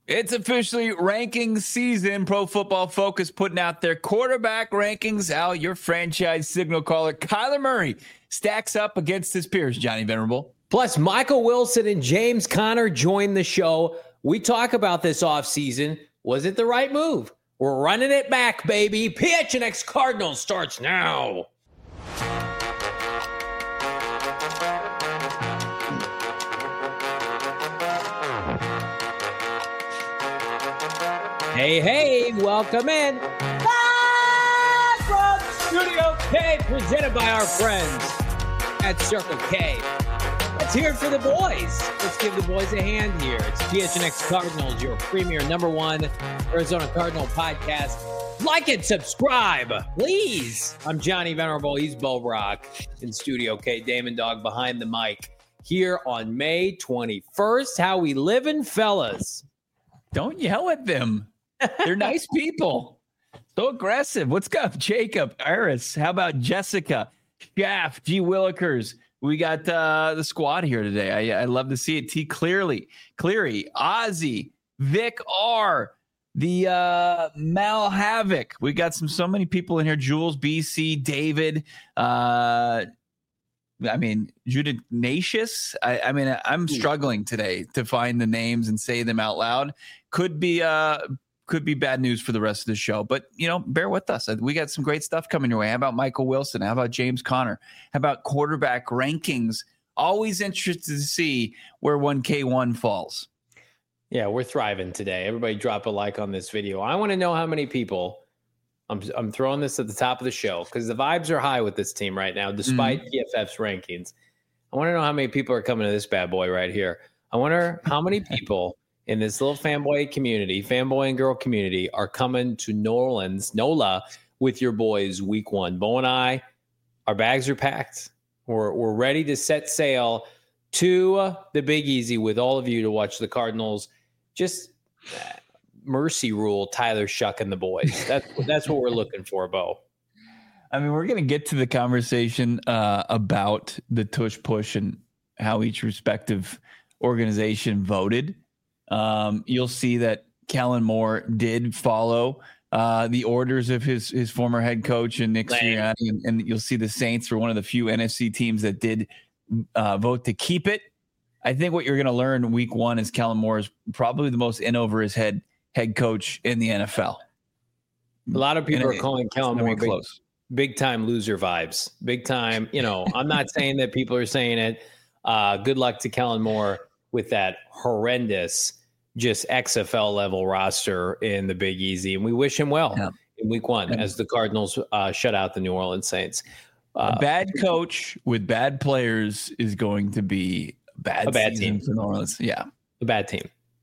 It's officially ranking season. Pro Football Focus putting out their quarterback rankings. How your franchise signal caller, Kyler Murray, stacks up against his peers, Johnny Venerable. Plus, Michael Wilson and James Conner join the show. We talk about this offseason. Was it the right move? We're running it back, baby. PHNX Cardinals starts now. Hey, welcome in. Live from Studio K, presented by our friends at Circle K. Let's hear it for the boys. Let's give the boys a hand here. It's PHNX Cardinals, your premier #1 Arizona Cardinal podcast. Like and subscribe, please. I'm Johnny Venerable. He's Bo Brock in Studio K. Damon Dog behind the mic here on May 21st. How we living, fellas? Don't yell at them. They're nice people. So aggressive. What's up, Jacob, Iris? How about Jessica, Shaft, G. Willikers? We got the squad here today. I love to see it. T. Cleary, Ozzy, Vic R, the Mal Havoc. We got so many people in here. Jules, BC, David. Judith Natius. I'm struggling today to find the names and say them out loud. Could be bad news for the rest of the show, but bear with us. We got some great stuff coming your way. How about Michael Wilson? How about James Conner? How about quarterback rankings? Always interested to see where 1K1 falls. Yeah, we're thriving today. Everybody drop a like on this video. I want to know how many people. I'm throwing this at the top of the show because the vibes are high with this team right now, despite PFF's rankings. I want to know how many people are coming to this bad boy right here. I wonder how many people in this little fanboy and girl community are coming to New Orleans, NOLA, with your boys week 1. Bo and I, our bags are packed. We're ready to set sail to the Big Easy with all of you to watch the Cardinals. Just mercy rule Tyler Shuck and the boys. That's what we're looking for, Bo. We're going to get to the conversation about the tush push and how each respective organization voted. You'll see that Kellen Moore did follow the orders of his former head coach and Nick Sirianni, and you'll see the Saints were one of the few NFC teams that did vote to keep it. I think what you're going to learn week 1 is Kellen Moore is probably the most in over his head coach in the NFL. A lot of people are calling Kellen Moore big time loser vibes. Big time. I'm not saying that people are saying it. Good luck to Kellen Moore with that horrendous, just XFL level roster in the Big Easy. And we wish him well in week 1 as the Cardinals shut out the New Orleans Saints. A bad coach with bad players is going to be a bad team for New Orleans. Yeah. A bad team.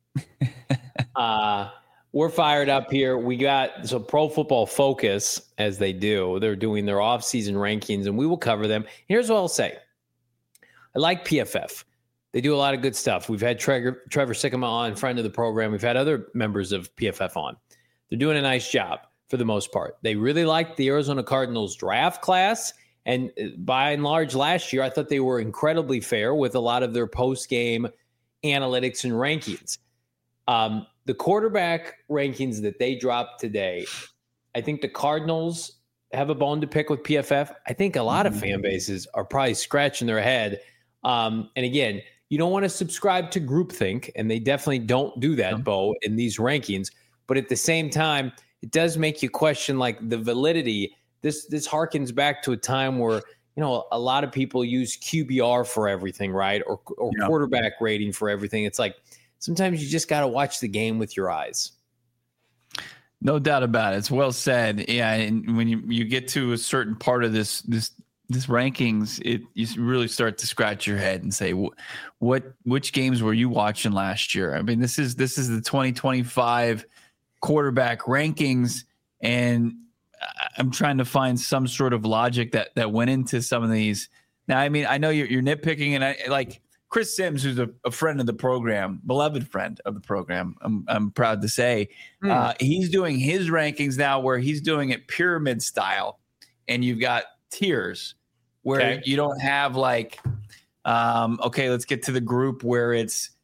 We're fired up here. We got Pro Football Focus, as they do. They're doing their offseason rankings, and we will cover them. Here's what I'll say. I like PFF. They do a lot of good stuff. We've had Trevor Sikkema on, friend of the program. We've had other members of PFF on. They're doing a nice job for the most part. They really liked the Arizona Cardinals draft class. And by and large, last year, I thought they were incredibly fair with a lot of their post-game analytics and rankings. The quarterback rankings that they dropped today, I think the Cardinals have a bone to pick with PFF. I think a lot of fan bases are probably scratching their head. And again, you don't want to subscribe to groupthink, and they definitely don't do that, Bo, in these rankings. But at the same time, it does make you question like the validity. This harkens back to a time where a lot of people use QBR for everything, right? Or quarterback rating for everything. It's like sometimes you just got to watch the game with your eyes. No doubt about it. It's well said. Yeah, and when you get to a certain part of this rankings, you really start to scratch your head and say, which games were you watching last year? This is the 2025 quarterback rankings, and I'm trying to find some sort of logic that went into some of these. Now, I know you're nitpicking, and I like Chris Sims, who's a friend of the program, beloved friend of the program. I'm proud to say he's doing his rankings now, where he's doing it pyramid style, and you've got tiers where you don't have like, okay, let's get to the group where it's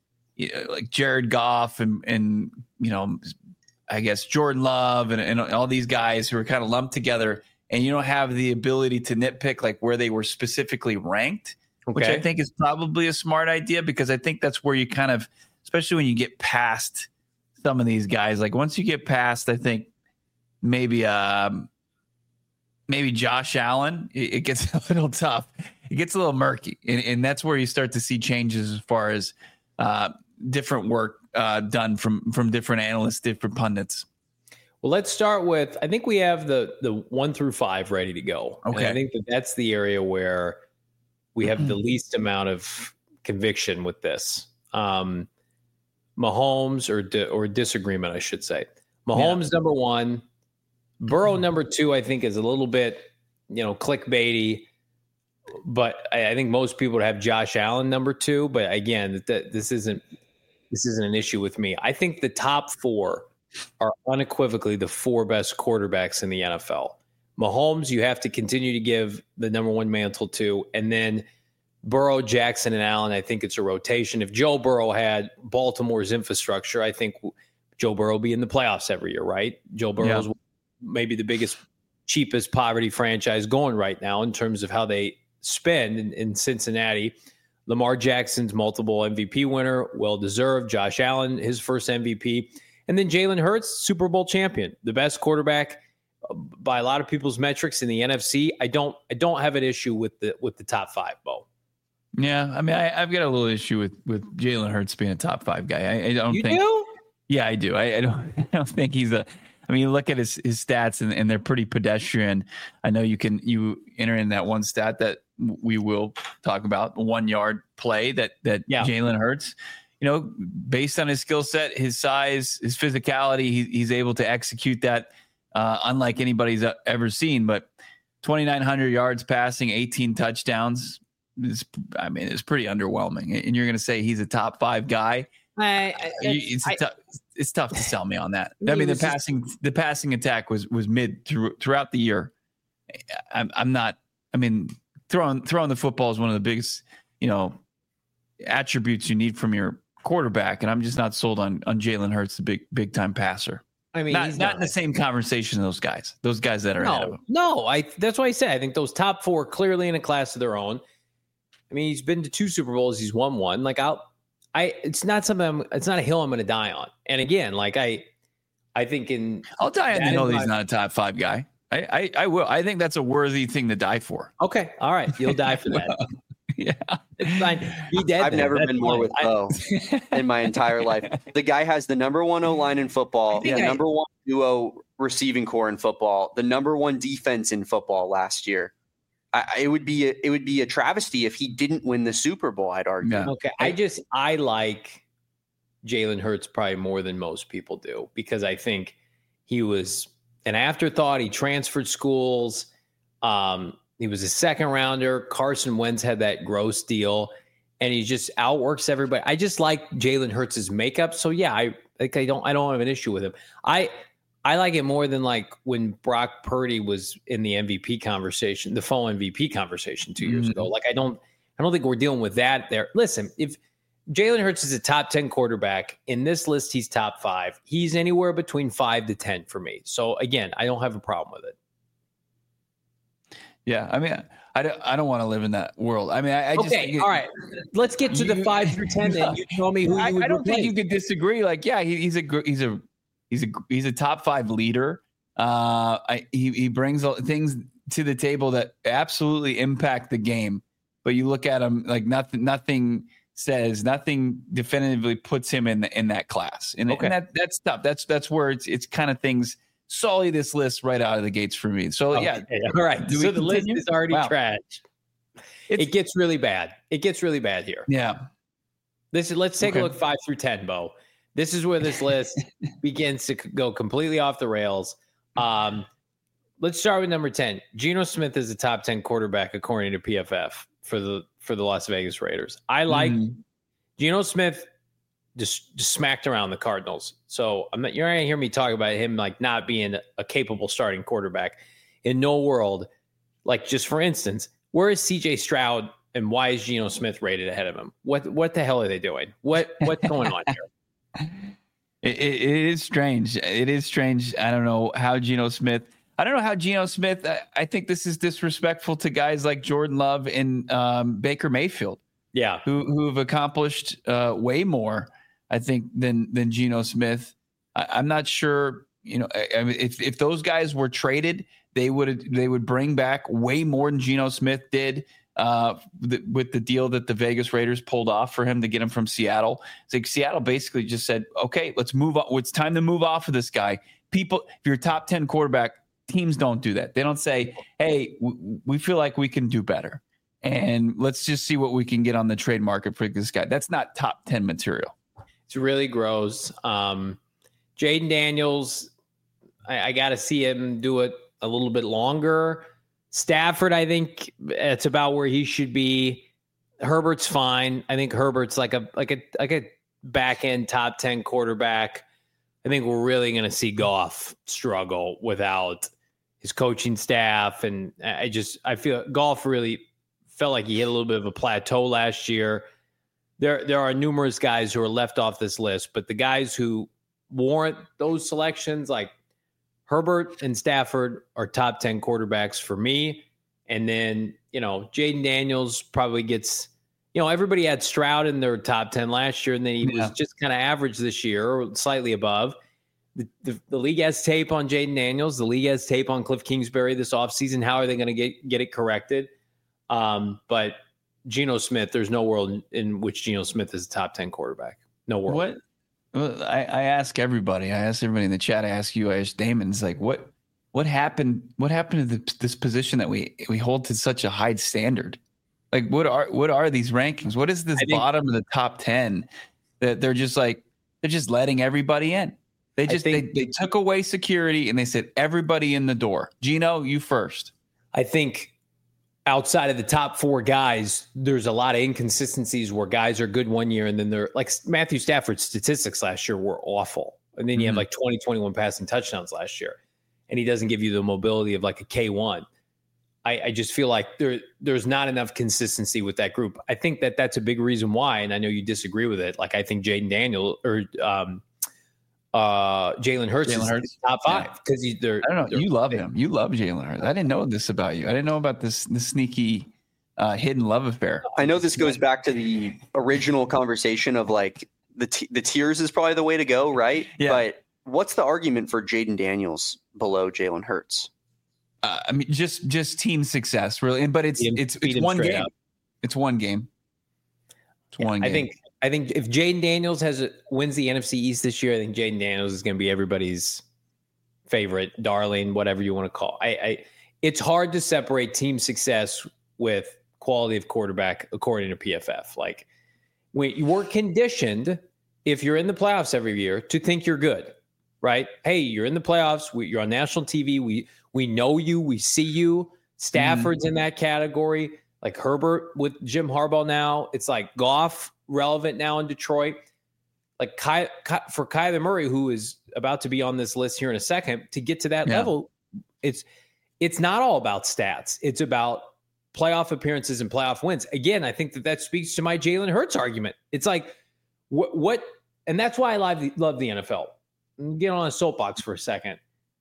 like Jared Goff and I guess Jordan Love and all these guys who are kind of lumped together, and you don't have the ability to nitpick like where they were specifically ranked, which I think is probably a smart idea, because I think that's where you kind of, especially when you get past some of these guys, like once you get past, I think maybe Josh Allen, it gets a little tough. It gets a little murky, and that's where you start to see changes as far as different work done from different analysts, different pundits. Well, let's start with, I think we have the 1 through 5 ready to go. Okay. And I think that's the area where we have the least amount of conviction with this. Mahomes or disagreement, I should say. Mahomes number 1, Burrow number 2. I think is a little bit, clickbaity, but I think most people would have Josh Allen number 2. But again, this isn't an issue with me. I think the top 4 are unequivocally the 4 best quarterbacks in the NFL. Mahomes, you have to continue to give the number 1 mantle to, and then Burrow, Jackson, and Allen. I think it's a rotation. If Joe Burrow had Baltimore's infrastructure, I think Joe Burrow would be in the playoffs every year, right? Joe Burrow's maybe the biggest, cheapest poverty franchise going right now in terms of how they spend in Cincinnati. Lamar Jackson's multiple MVP winner, well-deserved. Josh Allen, his first MVP. And then Jalen Hurts, Super Bowl champion, the best quarterback by a lot of people's metrics in the NFC. I don't have an issue with the top 5, Bo. Yeah, I mean, I've got a little issue with Jalen Hurts being a top 5 guy. I don't think. You do? Yeah, I do. I don't think he's a. I mean, you look at his stats and they're pretty pedestrian. I know you enter in that one stat that we will talk about, 1 yard play that Jalen Hurts. Based on his skill set, his size, his physicality, he's able to execute that unlike anybody's ever seen. But 2,900 yards passing, 18 touchdowns. It's pretty underwhelming. And you're going to say he's a top 5 guy? It's tough to sell me on that. I mean, the passing attack was mid throughout the year. I'm not. I mean, throwing the football is one of the biggest attributes you need from your quarterback, and I'm just not sold on Jalen Hurts, the big time passer. I mean, he's not in the same conversation as those guys that are ahead of him. No, that's why I say I think those top 4 are clearly in a class of their own. I mean, he's been to 2 Super Bowls, he's won 1. Like it's not a hill I'm going to die on. And again, like I think I'll die on the hill that he's not a top 5 guy. I will. I think that's a worthy thing to die for. Okay, all right, you'll die for that. Yeah, it's fine. Be dead. I've never been more with Bo in my entire life. The guy has the number 1 O-line in football, the number 1 duo receiving core in football, the number 1 defense in football last year. It would be a travesty if he didn't win the Super Bowl, I'd argue. Yeah. Okay, I like Jalen Hurts probably more than most people do, because I think he was an afterthought. He transferred schools. He was a second rounder. Carson Wentz had that gross deal, and he just outworks everybody. I just like Jalen Hurts' makeup. So yeah, I don't have an issue with him. I like it more than like when Brock Purdy was in the MVP conversation, the full MVP conversation 2 years ago. Like I don't think we're dealing with that there. Listen, if Jalen Hurts is a top 10 quarterback in this list, he's top 5. He's anywhere between 5 to 10 for me. So again, I don't have a problem with it. Yeah, I mean, I don't want to live in that world. I mean, I just all right. Let's get to the 5 through 10. Then you tell me who you would. I don't think you could disagree. Like, yeah, he's a top 5 leader. He brings things to the table that absolutely impact the game. But you look at him like nothing definitively puts him in that class. And that's tough. That's where it's kind of things sully this list right out of the gates for me. So all right. So the list is already trash. It gets really bad. It gets really bad here. Yeah. Let's take a look 5 through 10, Bo. This is where this list begins to go completely off the rails. Let's start with number 10. Geno Smith is a top 10 quarterback according to PFF for the Las Vegas Raiders. I like Geno Smith. Just smacked around the Cardinals. So you're not going to hear me talk about him like not being a capable starting quarterback. In no world, like just for instance, where is CJ Stroud And why is Geno Smith rated ahead of him? What the hell are they doing? What's going on here? It is strange. It is strange. I don't know how Geno Smith. I think this is disrespectful to guys like Jordan Love and Baker Mayfield. Yeah, who have accomplished way more, I think, than Geno Smith. I'm not sure. I mean, if those guys were traded, they would bring back way more than Geno Smith did. With the deal that the Vegas Raiders pulled off for him to get him from Seattle. It's like Seattle basically just said, okay, let's move on. It's time to move off of this guy. People, if you're a top 10 quarterback, teams don't do that. They don't say, hey, we feel like we can do better. And let's just see what we can get on the trade market for this guy. That's not top 10 material. It's really gross. Jaden Daniels, I got to see him do it a little bit longer. Stafford, I think it's about where he should be. Herbert's fine. I think Herbert's like a back end top 10 quarterback. I think we're really going to see Goff struggle without his coaching staff, and I feel Goff really felt like he hit a little bit of a plateau last year. There are numerous guys who are left off this list, but the guys who warrant those selections, like Herbert and Stafford, are top 10 quarterbacks for me. And then, Jaden Daniels probably gets, everybody had Stroud in their top 10 last year, and then he was just kind of average this year, or slightly above. The league has tape on Jaden Daniels. The league has tape on Cliff Kingsbury this offseason. How are they going to get it corrected? But Geno Smith, there's no world in which Geno Smith is a top 10 quarterback. No world. What? Well, I ask everybody. I ask everybody in the chat. I ask you. I ask Damon. It's like, what happened? What happened to this position that we hold to such a high standard? Like, what are these rankings? What is this bottom of the top 10 that they're just letting everybody in? They took away security and they said everybody in the door. Geno, you first. I think outside of the top 4 guys, there's a lot of inconsistencies where guys are good one year and then they're like Matthew Stafford's statistics last year were awful. And then you have like 21 passing touchdowns last year, and he doesn't give you the mobility of like a K1. I just feel like there's not enough consistency with that group. I think that's a big reason why, and I know you disagree with it. Like, I think Jaden Daniels or Jalen Hurts is top 5 because I don't know. You love him. You love Jalen Hurts. I didn't know this about you. I didn't know about this sneaky hidden love affair. I know this goes back to the original conversation of like the tiers is probably the way to go, right? Yeah. But what's the argument for Jaden Daniels below Jalen Hurts? I mean, just team success, really. But it's one game. It's one game. It's one game. I think if Jaden Daniels wins the NFC East this year, I think Jaden Daniels is going to be everybody's favorite, darling, whatever you want to call. It's hard to separate team success with quality of quarterback according to PFF. Like, when you were conditioned, if you're in the playoffs every year, to think you're good, right? Hey, you're in the playoffs. You're on national TV. We know you. We see you. Stafford's in that category. Like Herbert with Jim Harbaugh now. It's like Goff relevant now in Detroit. Like for Kyler Murray, who is about to be on this list here in a second, to get to that level, it's not all about stats. It's about playoff appearances and playoff wins. Again, I think that speaks to my Jalen Hurts argument. It's like what, and that's why I love the NFL. Get on a soapbox for a second.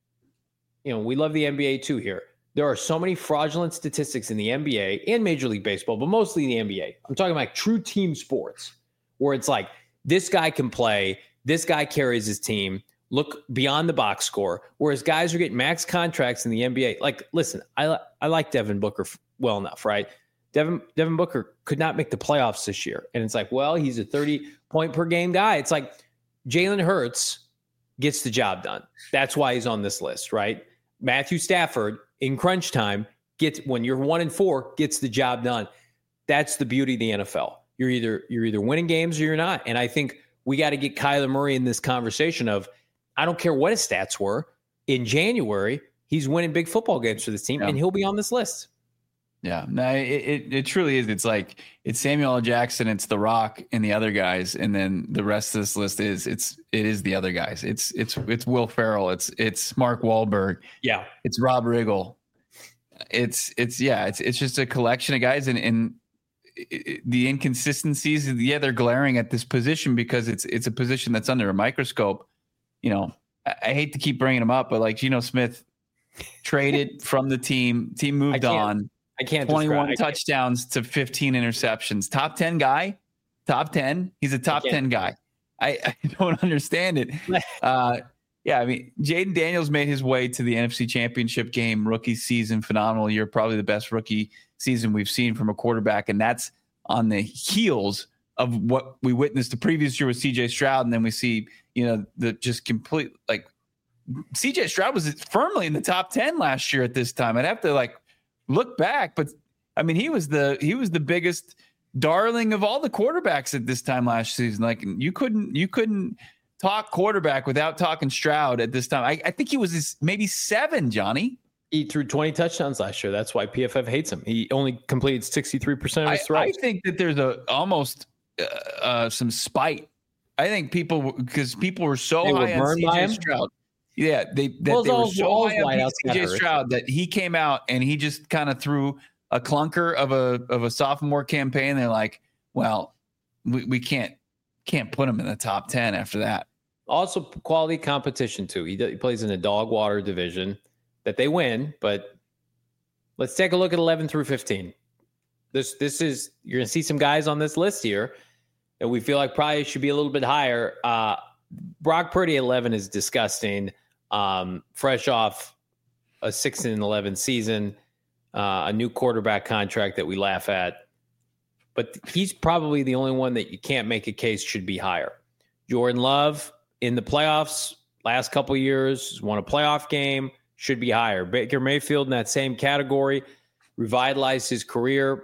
We love the NBA too here. There are so many fraudulent statistics in the NBA and Major League Baseball, but mostly in the NBA. I'm talking about true team sports where it's like, this guy can play, this guy carries his team, look beyond the box score, whereas guys are getting max contracts in the NBA. Like, listen, I like Devin Booker well enough, right? Devin Booker could not make the playoffs this year. And it's like, well, he's a 30-point per game guy. It's like Jalen Hurts gets the job done. That's why he's on this list, right? Matthew Stafford in crunch time when you're 1-4, gets the job done. That's the beauty of the NFL. You're either winning games or you're not. And I think we got to get Kyler Murray in this conversation of, I don't care what his stats were. In January, he's winning big football games for this team, and he'll be on this list. Yeah, no, it truly is. It's like it's Samuel L. Jackson, it's The Rock, and the other guys, and then the rest of this list it is the other guys. It's Will Ferrell, it's Mark Wahlberg, it's Rob Riggle, it's just a collection of guys, and the inconsistencies, yeah, they're glaring at this position because it's a position that's under a microscope. I hate to keep bringing him up, but like Geno Smith traded from the team moved on. I can't 21 touchdowns to 15 interceptions. Top 10 guy, top 10. He's a top 10 guy. I don't understand it. Yeah, I mean, Jaden Daniels made his way to the NFC Championship game, rookie season, phenomenal year, probably the best rookie season we've seen from a quarterback, and that's on the heels of what we witnessed the previous year with C.J. Stroud, and then we see, the just complete, like, C.J. Stroud was firmly in the top 10 last year at this time. I'd have to look back, but I mean, he was the biggest darling of all the quarterbacks at this time last season. Like, you couldn't talk quarterback without talking Stroud at this time. I think he was maybe 7, Johnny. He threw 20 touchdowns last year. That's why PFF hates him. He only completed 63% of his throws. I think that there's almost some spite. I think because people were so high on CJ Stroud. Yeah, they were so high on CJ Stroud that he came out and he just kind of threw a clunker of a sophomore campaign. They're like, well, we can't put him in the top 10 after that. Also, quality competition too. He plays in a dog water division that they win, but let's take a look at 11 through 15. This is, you're going to see some guys on this list here that we feel like probably should be a little bit higher. Brock Purdy 11 is disgusting. Fresh off a 6-11 season, a new quarterback contract that we laugh at, but he's probably the only one that you can't make a case should be higher. Jordan Love in the playoffs last couple of years, won a playoff game, should be higher. Baker Mayfield in that same category, revitalized his career.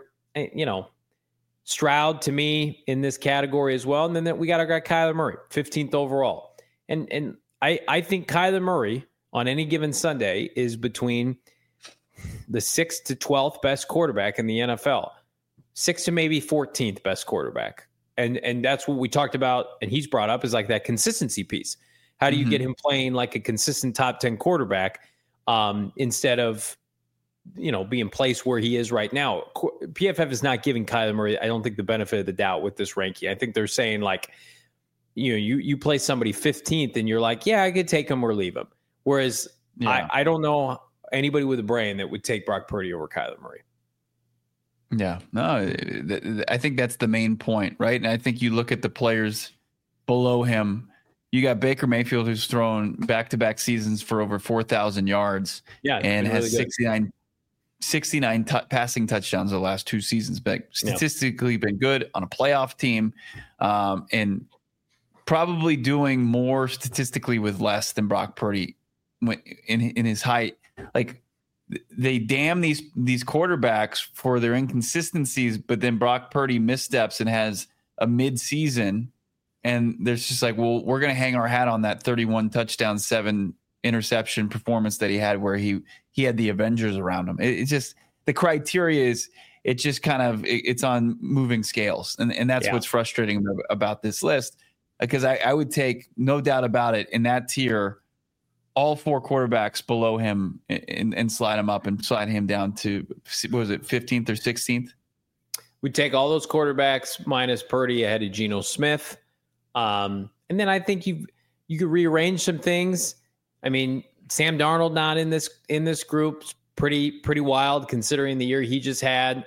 Stroud to me in this category as well. And then we got our guy Kyler Murray, 15th overall. And I think Kyler Murray on any given Sunday is between the 6th to 12th best quarterback in the NFL, 6th to maybe 14th best quarterback. And that's what we talked about, and he's brought up, is like that consistency piece. How do you get him playing like a consistent top 10 quarterback instead of, being placed where he is right now? PFF is not giving Kyler Murray, I don't think, the benefit of the doubt with this ranking. I think they're saying like, you play somebody 15th and you're like, yeah, I could take him or leave him. Whereas I don't know anybody with a brain that would take Brock Purdy over Kyler Murray. Yeah, no, I think that's the main point, right? And I think you look at the players below him. You got Baker Mayfield, who's thrown back-to-back seasons for over 4,000 yards, and has really 69 passing touchdowns the last 2 seasons. But statistically, been good on a playoff team, and probably doing more statistically with less than Brock Purdy in his height. Like, they damn these quarterbacks for their inconsistencies, but then Brock Purdy missteps and has a mid-season, and there's just like, well, we're going to hang our hat on that 31 touchdown, 7 interception performance that he had, where he had the Avengers around him. It's just, the criteria is, it's just kind of, it's on moving scales, and that's what's frustrating about this list, because I would take, no doubt about it, in that tier, all 4 quarterbacks below him and slide him up and slide him down to, what was it, 15th or 16th? We'd take all those quarterbacks minus Purdy ahead of Geno Smith. And then I think you could rearrange some things. I mean, Sam Darnold not in this group, pretty wild considering the year he just had.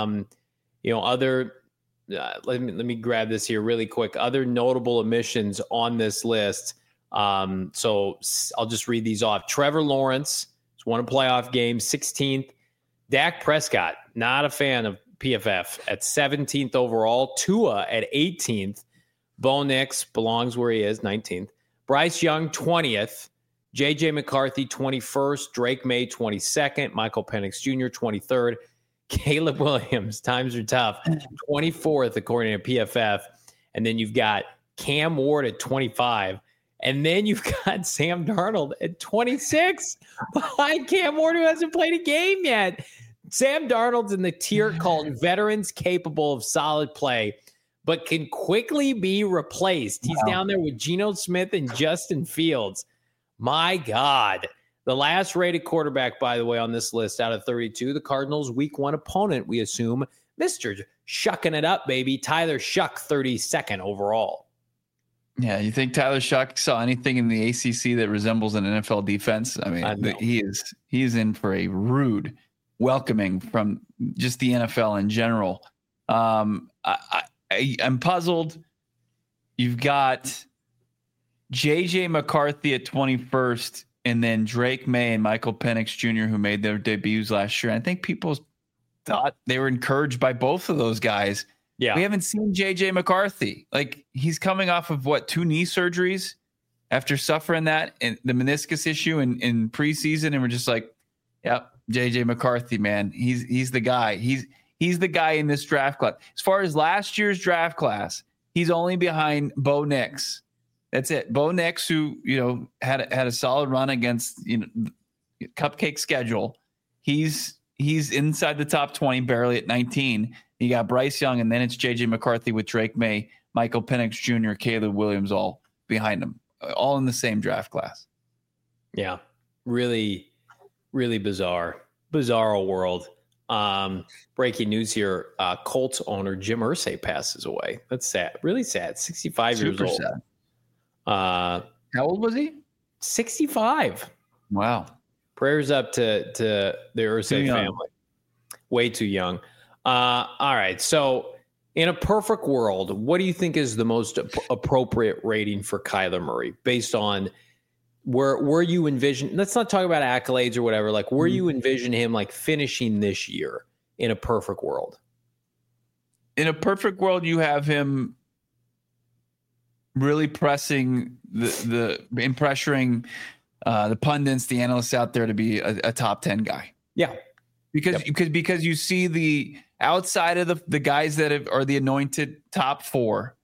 Other let me grab this here really quick. Other notable omissions on this list. So I'll just read these off. Trevor Lawrence has won a playoff game, 16th. Dak Prescott, not a fan of PFF, at 17th overall. Tua at 18th. Bo Nix belongs where he is, 19th. Bryce Young, 20th. J.J. McCarthy, 21st. Drake May, 22nd. Michael Penix Jr., 23rd. Caleb Williams, times are tough, 24th according to PFF. And then you've got Cam Ward at 25. And then you've got Sam Darnold at 26 behind Cam Ward, who hasn't played a game yet. Sam Darnold's in the tier called veterans capable of solid play, but can quickly be replaced. He's down there with Geno Smith and Justin Fields. My God. The last rated quarterback, by the way, on this list out of 32, the Cardinals' week 1 opponent, we assume, Mr. Shucking it up, baby. Tyler Shuck, 32nd overall. Yeah, you think Tyler Shuck saw anything in the ACC that resembles an NFL defense? I mean, he is in for a rude welcoming from just the NFL in general. I'm puzzled. You've got JJ McCarthy at 21st, and then Drake May and Michael Penix Jr., who made their debuts last year. I think people thought they were encouraged by both of those guys. Yeah. We haven't seen JJ McCarthy. Like, he's coming off of 2 knee surgeries after suffering that and the meniscus issue in preseason. And we're just like, yep, JJ McCarthy, man. He's the guy. He's the guy in this draft class. As far as last year's draft class, he's only behind Bo Nix. That's it. Bo Nix, who, had a solid run against, cupcake schedule. He's inside the top 20, barely at 19. You got Bryce Young, and then it's J.J. McCarthy with Drake May, Michael Penix Jr., Caleb Williams, all behind him, all in the same draft class. Yeah, really, really bizarre world. Breaking news here: Colts owner Jim Irsay passes away. That's sad, really sad. 65 years old. Sad. How old was he? 65. Wow. Prayers up to the Irsay family. Way too young. All right. So in a perfect world, what do you think is the most appropriate rating for Kyler Murray based on where you envision? Let's not talk about accolades or whatever. Like, where you envision him like finishing this year in a perfect world? In a perfect world, you have him really pressing pressuring the pundits, the analysts out there to be a top 10 guy. Yeah. Because you see the outside of the guys that are the anointed top 4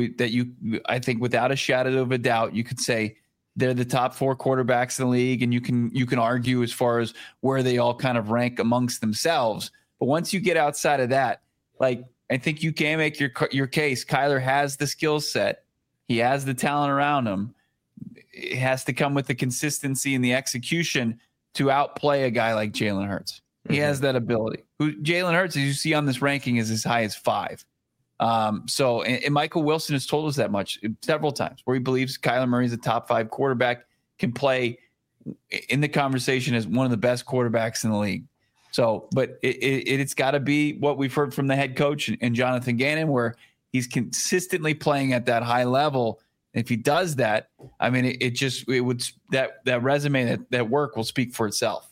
I think without a shadow of a doubt, you could say they're the top 4 quarterbacks in the league, and you can argue as far as where they all kind of rank amongst themselves. But once you get outside of that, like, I think you can make your case. Kyler has the skill set. He has the talent around him. It has to come with the consistency and the execution to outplay a guy like Jalen Hurts. He has that ability. Jalen Hurts, as you see on this ranking, is as high as 5. And Michael Wilson has told us that much several times, where he believes Kyler Murray is a top 5 quarterback, can play in the conversation as one of the best quarterbacks in the league. So, but it's got to be what we've heard from the head coach and Jonathan Gannon, where he's consistently playing at that high level. If he does that, I mean, that resume, that work will speak for itself.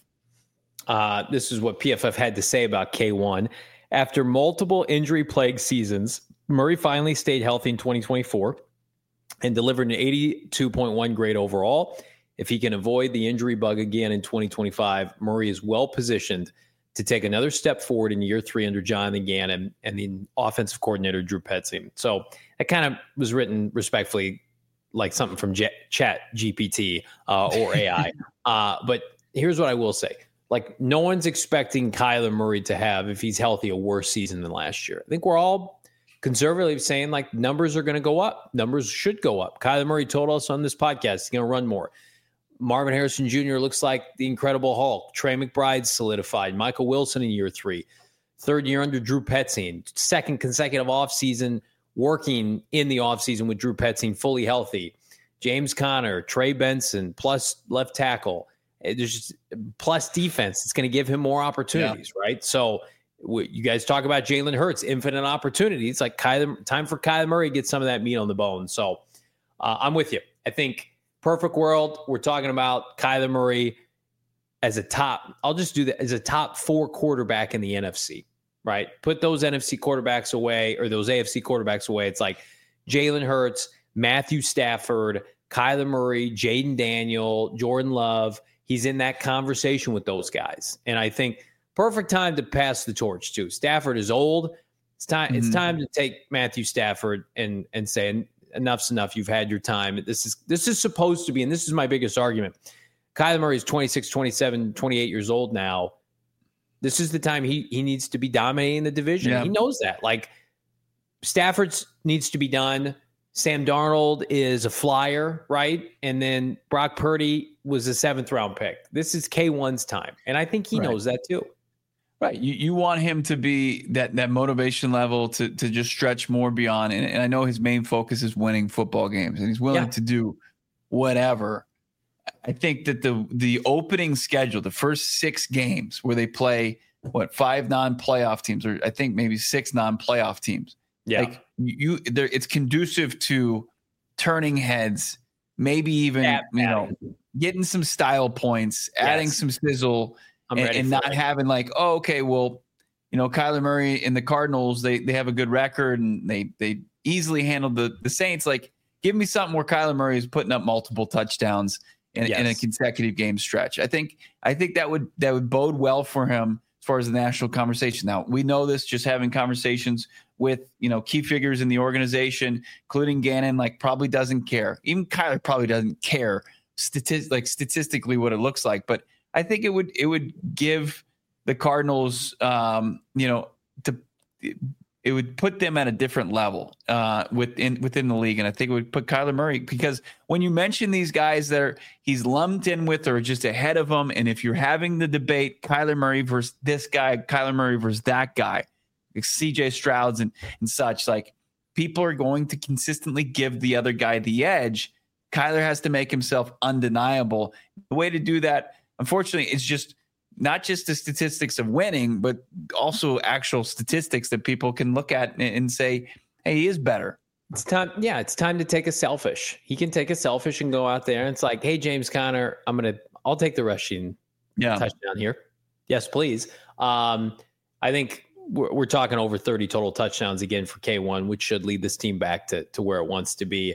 This is what PFF had to say about K1. After multiple injury-plagued seasons, Murray finally stayed healthy in 2024 and delivered an 82.1 grade overall. If he can avoid the injury bug again in 2025, Murray is well-positioned to take another step forward in year 3 under Jonathan Gannon and the offensive coordinator, Drew Petzing. So that kind of was written respectfully like something from Chat GPT or AI. But here's what I will say. Like, no one's expecting Kyler Murray to have, if he's healthy, a worse season than last year. I think we're all conservatively saying, like, numbers are going to go up. Numbers should go up. Kyler Murray told us on this podcast he's going to run more. Marvin Harrison Jr. looks like the Incredible Hulk. Trey McBride solidified. Michael Wilson in year 3. 3rd year under Drew Petzing. 2nd consecutive offseason, working in the offseason with Drew Petzing, fully healthy. James Conner, Trey Benson, plus left tackle. There's just plus defense. It's going to give him more opportunities, right? So you guys talk about Jalen Hurts, infinite opportunities. Like, time for Kyler Murray to get some of that meat on the bone. So I'm with you. I think perfect world, we're talking about Kyler Murray as a top. I'll just do that as a top 4 quarterback in the NFC, right? Put those NFC quarterbacks away, or those AFC quarterbacks away. It's like Jalen Hurts, Matthew Stafford, Kyler Murray, Jaden Daniel, Jordan Love. He's in that conversation with those guys. And I think perfect time to pass the torch too. Stafford is old. It's time. It's time to take Matthew Stafford and say, enough's enough. You've had your time. This is supposed to be, and this is my biggest argument. Kyler Murray is 26, 27, 28 years old now. This is the time he needs to be dominating the division. Yeah. He knows that. Like, Stafford needs to be done. Sam Darnold is a flyer, right? And then Brock Purdy was a 7th round pick. This is K1's time. And I think he knows that too. Right. You want him to be that motivation level to just stretch more beyond. And I know his main focus is winning football games, and he's willing to do whatever. I think that the opening schedule, the first 6 games where they play 5 non-playoff teams, or I think maybe 6 non-playoff teams. Yeah. Like it's conducive to turning heads, maybe even, getting some style points, adding some sizzle, and not having like, oh, okay, well, Kyler Murray and the Cardinals, they have a good record and they easily handled the Saints. Like, give me something where Kyler Murray is putting up multiple touchdowns in a consecutive game stretch. I think that would bode well for him as far as the national conversation. Now, we know this just having conversations with, key figures in the organization, including Gannon, like probably doesn't care. Even Kyler probably doesn't care statistically what it looks like, but I think it would give the Cardinals, it would put them at a different level within the league, and I think it would put Kyler Murray, because when you mention these guys that he's lumped in with or just ahead of them, and if you're having the debate Kyler Murray versus this guy, Kyler Murray versus that guy, like CJ Stroud's and such, like people are going to consistently give the other guy the edge. Kyler has to make himself undeniable. The way to do that, unfortunately, is just not just the statistics of winning, but also actual statistics that people can look at and say, hey, he is better. It's time. Yeah, it's time to take a selfish. He can take a selfish and go out there and it's like, hey, James Conner, I'll take the rushing touchdown here. Yes, please. I think we're talking over 30 total touchdowns again for K1, which should lead this team back to where it wants to be.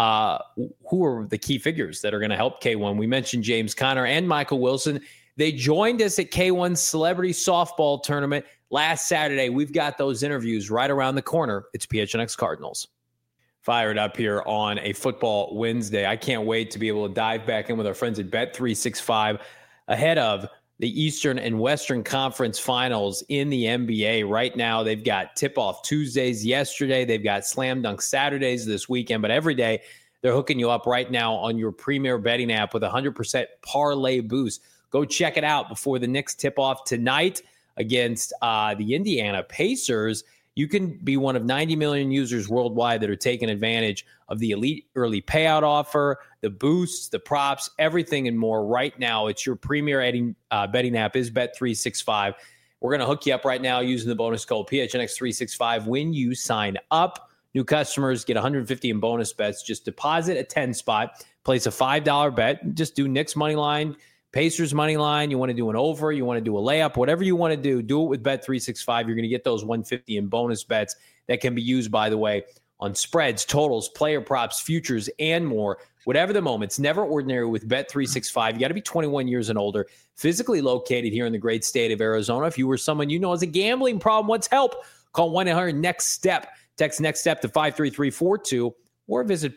Who are the key figures that are going to help K1? We mentioned James Conner and Michael Wilson. They joined us at K1's Celebrity Softball Tournament last Saturday. We've got those interviews right around the corner. It's PHNX Cardinals. Fired up here on a football Wednesday. I can't wait to be able to dive back in with our friends at Bet365 ahead of the Eastern and Western Conference Finals in the NBA. Right now, they've got tip-off Tuesdays yesterday. They've got slam dunk Saturdays this weekend. But every day, they're hooking you up right now on your premier betting app with a 100% parlay boost. Go check it out before the Knicks tip-off tonight against the Indiana Pacers. You can be one of 90 million users worldwide that are taking advantage of the elite early payout offer, the boosts, the props, everything and more right now. It's your premier betting app is Bet365. We're going to hook you up right now using the bonus code PHNX365 when you sign up. New customers get $150 in bonus bets. Just deposit a 10 spot, place a $5 bet, just do Knicks money line, Pacers money line. You want to do an over, you want to do a layup, whatever you want to do it with Bet365. You're going to get those $150 in bonus bets that can be used, by the way, on spreads, totals, player props, futures, and more. Whatever the moment, it's never ordinary with Bet365. You got to be 21 years and older, physically located here in the great state of Arizona. If you or someone you know has a gambling problem, wants help, call 1-800-NEXT-STEP. Text NEXT STEP to 53342 or visit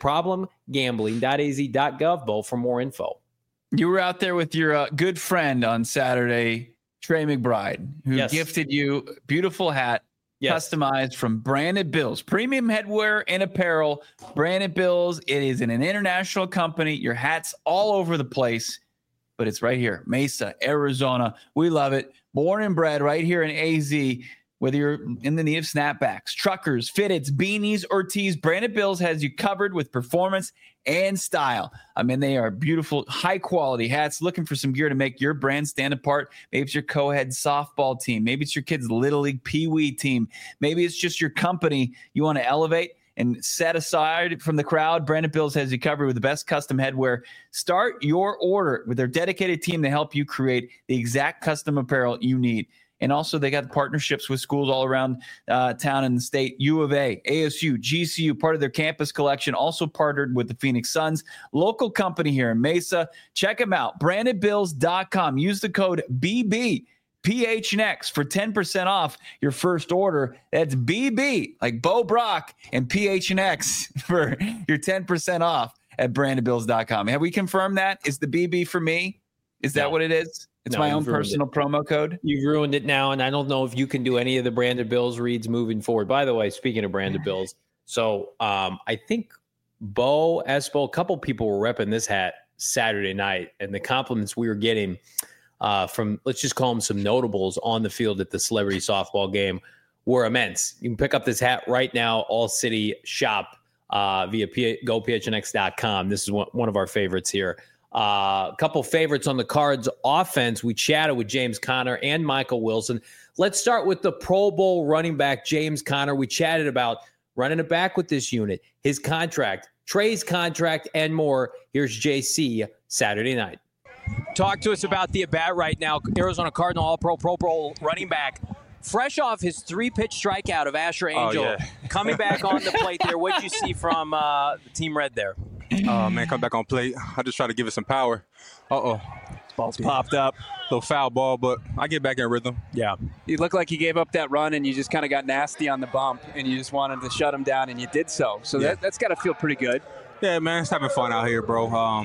problemgambling.az.gov, Bo, for more info. You were out there with your good friend on Saturday, Trey McBride, who gifted you a beautiful hat, customized from Branded Bills. Premium headwear and apparel. Branded Bills. It is an international company. Your hat's all over the place, but it's right here, Mesa, Arizona. We love it. Born and bred right here in AZ. Whether you're in the need of snapbacks, truckers, fitteds, beanies, or tees, Branded Bills has you covered with performance and style. I mean, they are beautiful, high-quality hats. Looking for some gear to make your brand stand apart? Maybe it's your co-head softball team. Maybe it's your kid's Little League Pee-wee team. Maybe it's just your company you want to elevate and set aside from the crowd. Branded Bills has you covered with the best custom headwear. Start your order with their dedicated team to help you create the exact custom apparel you need. And also, they got partnerships with schools all around town and the state. U of A, ASU, GCU, part of their campus collection. Also partnered with the Phoenix Suns, local company here in Mesa. Check them out, brandedbills.com. Use the code BBPHNX for 10% off your first order. That's BB, like Bo Brock, and PHNX for your 10% off at brandedbills.com. Have we confirmed that? Is the BB for me? Is that what it is? It's my own personal promo code. You've ruined it now, and I don't know if you can do any of the Branded Bills reads moving forward. By the way, speaking of Branded Bills, so I think Bo Espo, a couple people were repping this hat Saturday night, and the compliments we were getting from, let's just call them some notables on the field at the celebrity softball game, were immense. You can pick up this hat right now, All City Shop, via gophnx.com. This is one of our favorites here. A couple favorites on the Cards offense. We chatted with James Conner and Michael Wilson. Let's start with the Pro Bowl running back, James Conner. We chatted about running it back with this unit, his contract, Trey's contract, and more. Here's JC Saturday night. Talk to us about the at-bat right now. Arizona Cardinal All-Pro Pro Bowl running back. Fresh off his 3-pitch strikeout of Asher Angel, coming back on the plate there. What did you see from the Team Red there? Man, come back on plate. I just try to give it some power. Ball's popped up. Little foul ball, but I get back in rhythm. Yeah. You looked like you gave up that run and you just kind of got nasty on the bump and you just wanted to shut him down and you did so. So that's got to feel pretty good. Yeah, man, it's having fun out here, bro.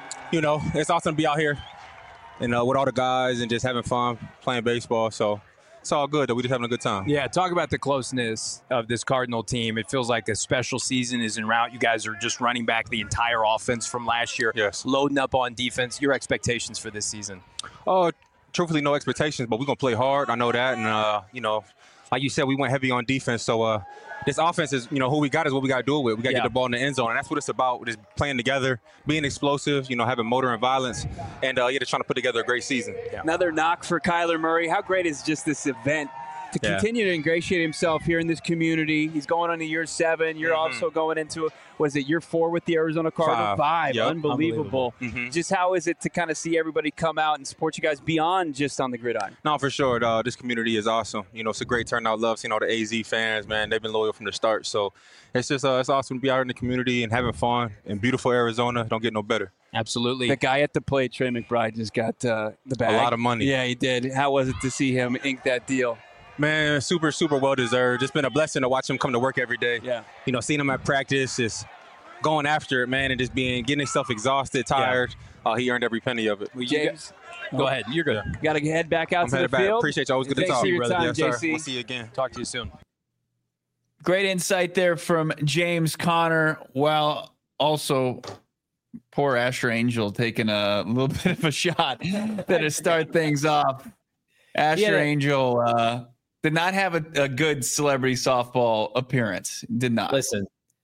It's awesome to be out here and with all the guys and just having fun playing baseball. So it's all good that we're just having a good time. Yeah, talk about the closeness of this Cardinal team. It feels like a special season is en route. You guys are just running back the entire offense from last year, loading up on defense. Your expectations for this season? Truthfully, no expectations, but we're going to play hard. I know that. And, like you said, we went heavy on defense. So this offense is, who we got is what we got to do it with. We got to get the ball in the end zone. And that's what it's about, just playing together, being explosive, having motor and violence, and just trying to put together a great season. Yeah. Another knock for Kyler Murray. How great is just this event to continue to ingratiate himself here in this community? He's going on to year 7. You're also going into, year 4 with the Arizona Cardinals? 5. Yep. Unbelievable. Mm-hmm. Just how is it to kind of see everybody come out and support you guys beyond just on the gridiron? No, for sure. This community is awesome. It's a great turnout. Love seeing all the AZ fans, man. They've been loyal from the start. So it's just it's awesome to be out in the community and having fun in beautiful Arizona. Don't get no better. Absolutely. The guy at the plate, Trey McBride, just got the bag. A lot of money. Yeah, he did. How was it to see him ink that deal? Man, super, super well-deserved. It's been a blessing to watch him come to work every day. Yeah. Seeing him at practice, just going after it, man, and just getting himself exhausted, tired. He earned every penny of it. James, go ahead. You're good. Got to head back out to the field. Appreciate you. Always good to talk. Thanks for your time, yes, JC. We'll see you again. Talk to you soon. Great insight there from James Conner. Well, also poor Asher Angel taking a little bit of a shot there to start things off. Asher Angel did not have a good celebrity softball appearance. Did not. Listen,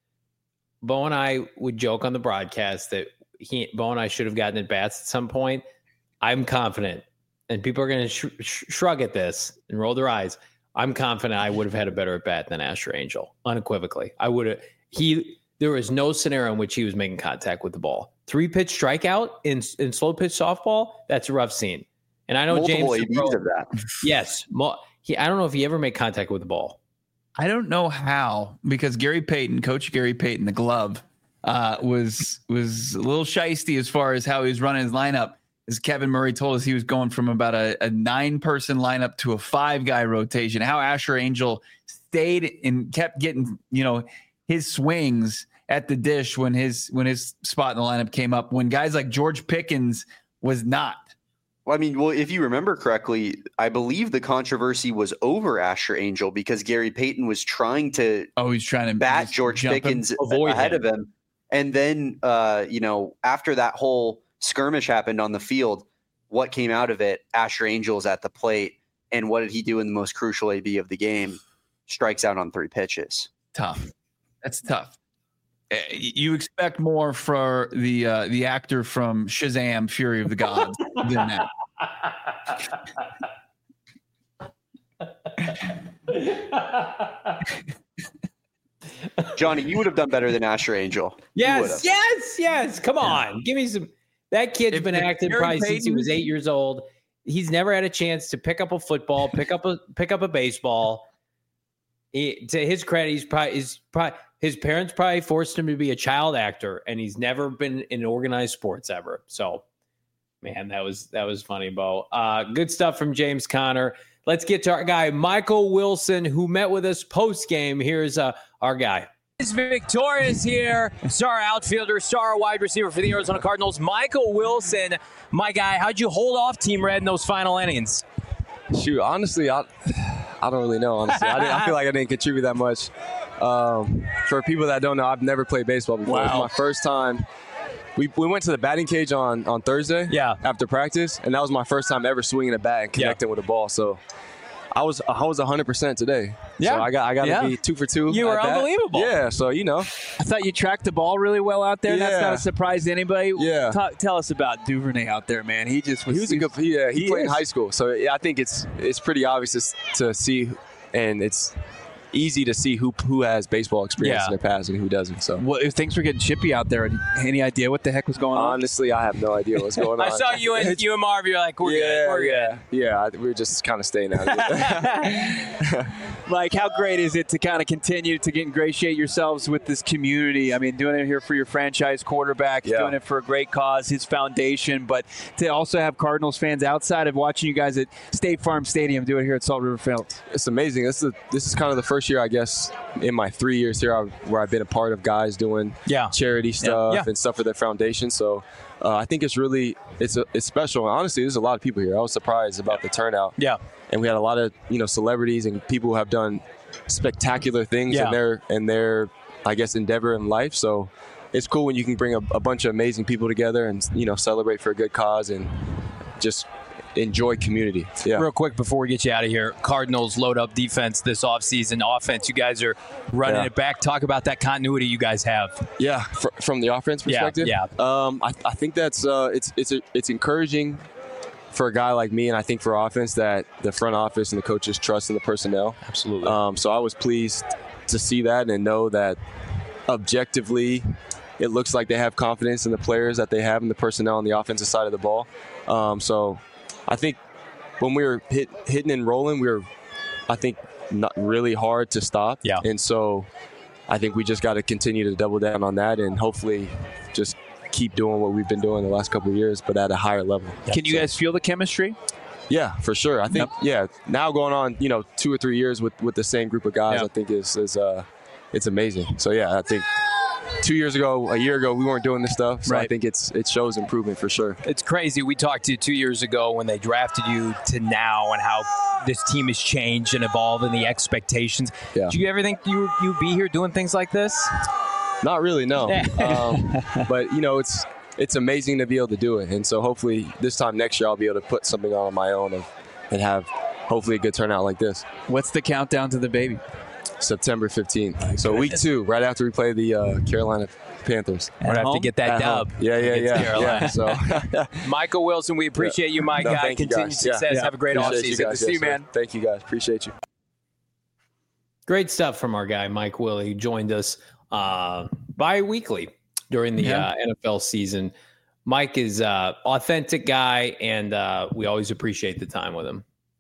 Bo and I would joke on the broadcast that Bo and I should have gotten at bats at some point. I'm confident, and people are going to shrug at this and roll their eyes. I'm confident I would have had a better at bat than Asher Angel, unequivocally. I would have. There was no scenario in which he was making contact with the ball. 3-pitch strikeout in slow pitch softball. That's a rough scene. And I know multiple James ABs of that. Yes. I don't know if he ever made contact with the ball. I don't know how, because Coach Gary Payton, the glove, was a little shisty as far as how he was running his lineup. As Kevin Murray told us, he was going from about a 9-person lineup to a 5-guy rotation. How Asher Angel stayed and kept getting, his swings at the dish when his spot in the lineup came up, when guys like George Pickens was not. Well, if you remember correctly, I believe the controversy was over Asher Angel because Gary Payton was trying to bat George Pickens ahead of him. And then, after that whole skirmish happened on the field, what came out of it? Asher Angel's at the plate. And what did he do in the most crucial AB of the game? Strikes out on 3 pitches. Tough. That's tough. You expect more for the actor from Shazam, Fury of the Gods than that. Johnny, you would have done better than Asher Angel. Yes. Come on. Give me some. That kid's been acting probably since he was 8 years old. He's never had a chance to pick up a football, pick up a baseball. To his credit, his parents probably forced him to be a child actor, and he's never been in organized sports ever. So, man, that was funny, Bo. Good stuff from James Conner. Let's get to our guy, Michael Wilson, who met with us post-game. Here's our guy. It's victorious here. Star outfielder, star wide receiver for the Arizona Cardinals, Michael Wilson. My guy, how'd you hold off Team Red in those final innings? Shoot, honestly, I don't really know, honestly. I feel like I didn't contribute that much. For people that don't know, I've never played baseball before. Wow. It was my first time we went to the batting cage on Thursday. Yeah. After practice, and that was my first time ever swinging a bat and connecting with a ball. So I was 100% today. Yeah. So I got to be 2 for 2. You were unbelievable. Yeah. So I thought you tracked the ball really well out there. Yeah. That's not a surprise to anybody. Yeah. Tell us about Duvernay out there, man. He was a good. He played in high school, so I think it's pretty obvious to see, and it's easy to see who has baseball experience in their past and who doesn't. So, well, if things were getting chippy out there, any idea what the heck was going on? Honestly, I have no idea what's going on. I saw you and Marv. You're like, we're good. Yeah, we were just kind of staying out of it. Like, how great is it to kind of continue to ingratiate yourselves with this community? I mean, doing it here for your franchise quarterback, doing it for a great cause, his foundation, but to also have Cardinals fans outside of watching you guys at State Farm Stadium do it here at Salt River Fields. It's amazing. This is kind of the first year, I guess, in my 3 years here where I've been a part of guys doing charity stuff and stuff for their foundation. So I think it's really it's special. And honestly, there's a lot of people here. I was surprised about the turnout. Yeah. And we had a lot of celebrities and people who have done spectacular things in their I guess endeavor in life. So it's cool when you can bring a bunch of amazing people together and celebrate for a good cause and just enjoy community. Yeah. Real quick before we get you out of here, Cardinals load up defense this offseason. Offense, you guys are running it back. Talk about that continuity you guys have. Yeah, from the offense perspective. Yeah. I think that's it's encouraging for a guy like me, and I think for offense that the front office and the coaches trust in the personnel. Absolutely. So I was pleased to see that and know that objectively it looks like they have confidence in the players that they have and the personnel on the offensive side of the ball. So I think when we were hitting and rolling, we were, I think, not really hard to stop. Yeah. And so I think we just got to continue to double down on that and hopefully just keep doing what we've been doing the last couple of years, but at a higher level. Can you guys feel the chemistry? Yeah, for sure. I think, now going on, 2 or 3 years with the same group of guys, I think is it's amazing. So, I think 2 years ago, a year ago, we weren't doing this stuff. So I think it shows improvement for sure. It's crazy. We talked to you 2 years ago when they drafted you to now and how this team has changed and evolved and the expectations. Yeah. Do you ever think you'd be here doing things like this? Not really, no. But, it's amazing to be able to do it. And so hopefully this time next year I'll be able to put something on my own and have hopefully a good turnout like this. What's the countdown to the baby? September 15th. So week 2, right after we play the Carolina Panthers. We're going to have to get that dub. Yeah. So, Michael Wilson, we appreciate you, my guy. Continued success. Have a great offseason. Good to see you, man. Thank you, guys. Appreciate you. Great stuff from our guy, Mike Willie, who joined us bi-weekly during the NFL season. Mike is an authentic guy, and we always appreciate the time with him.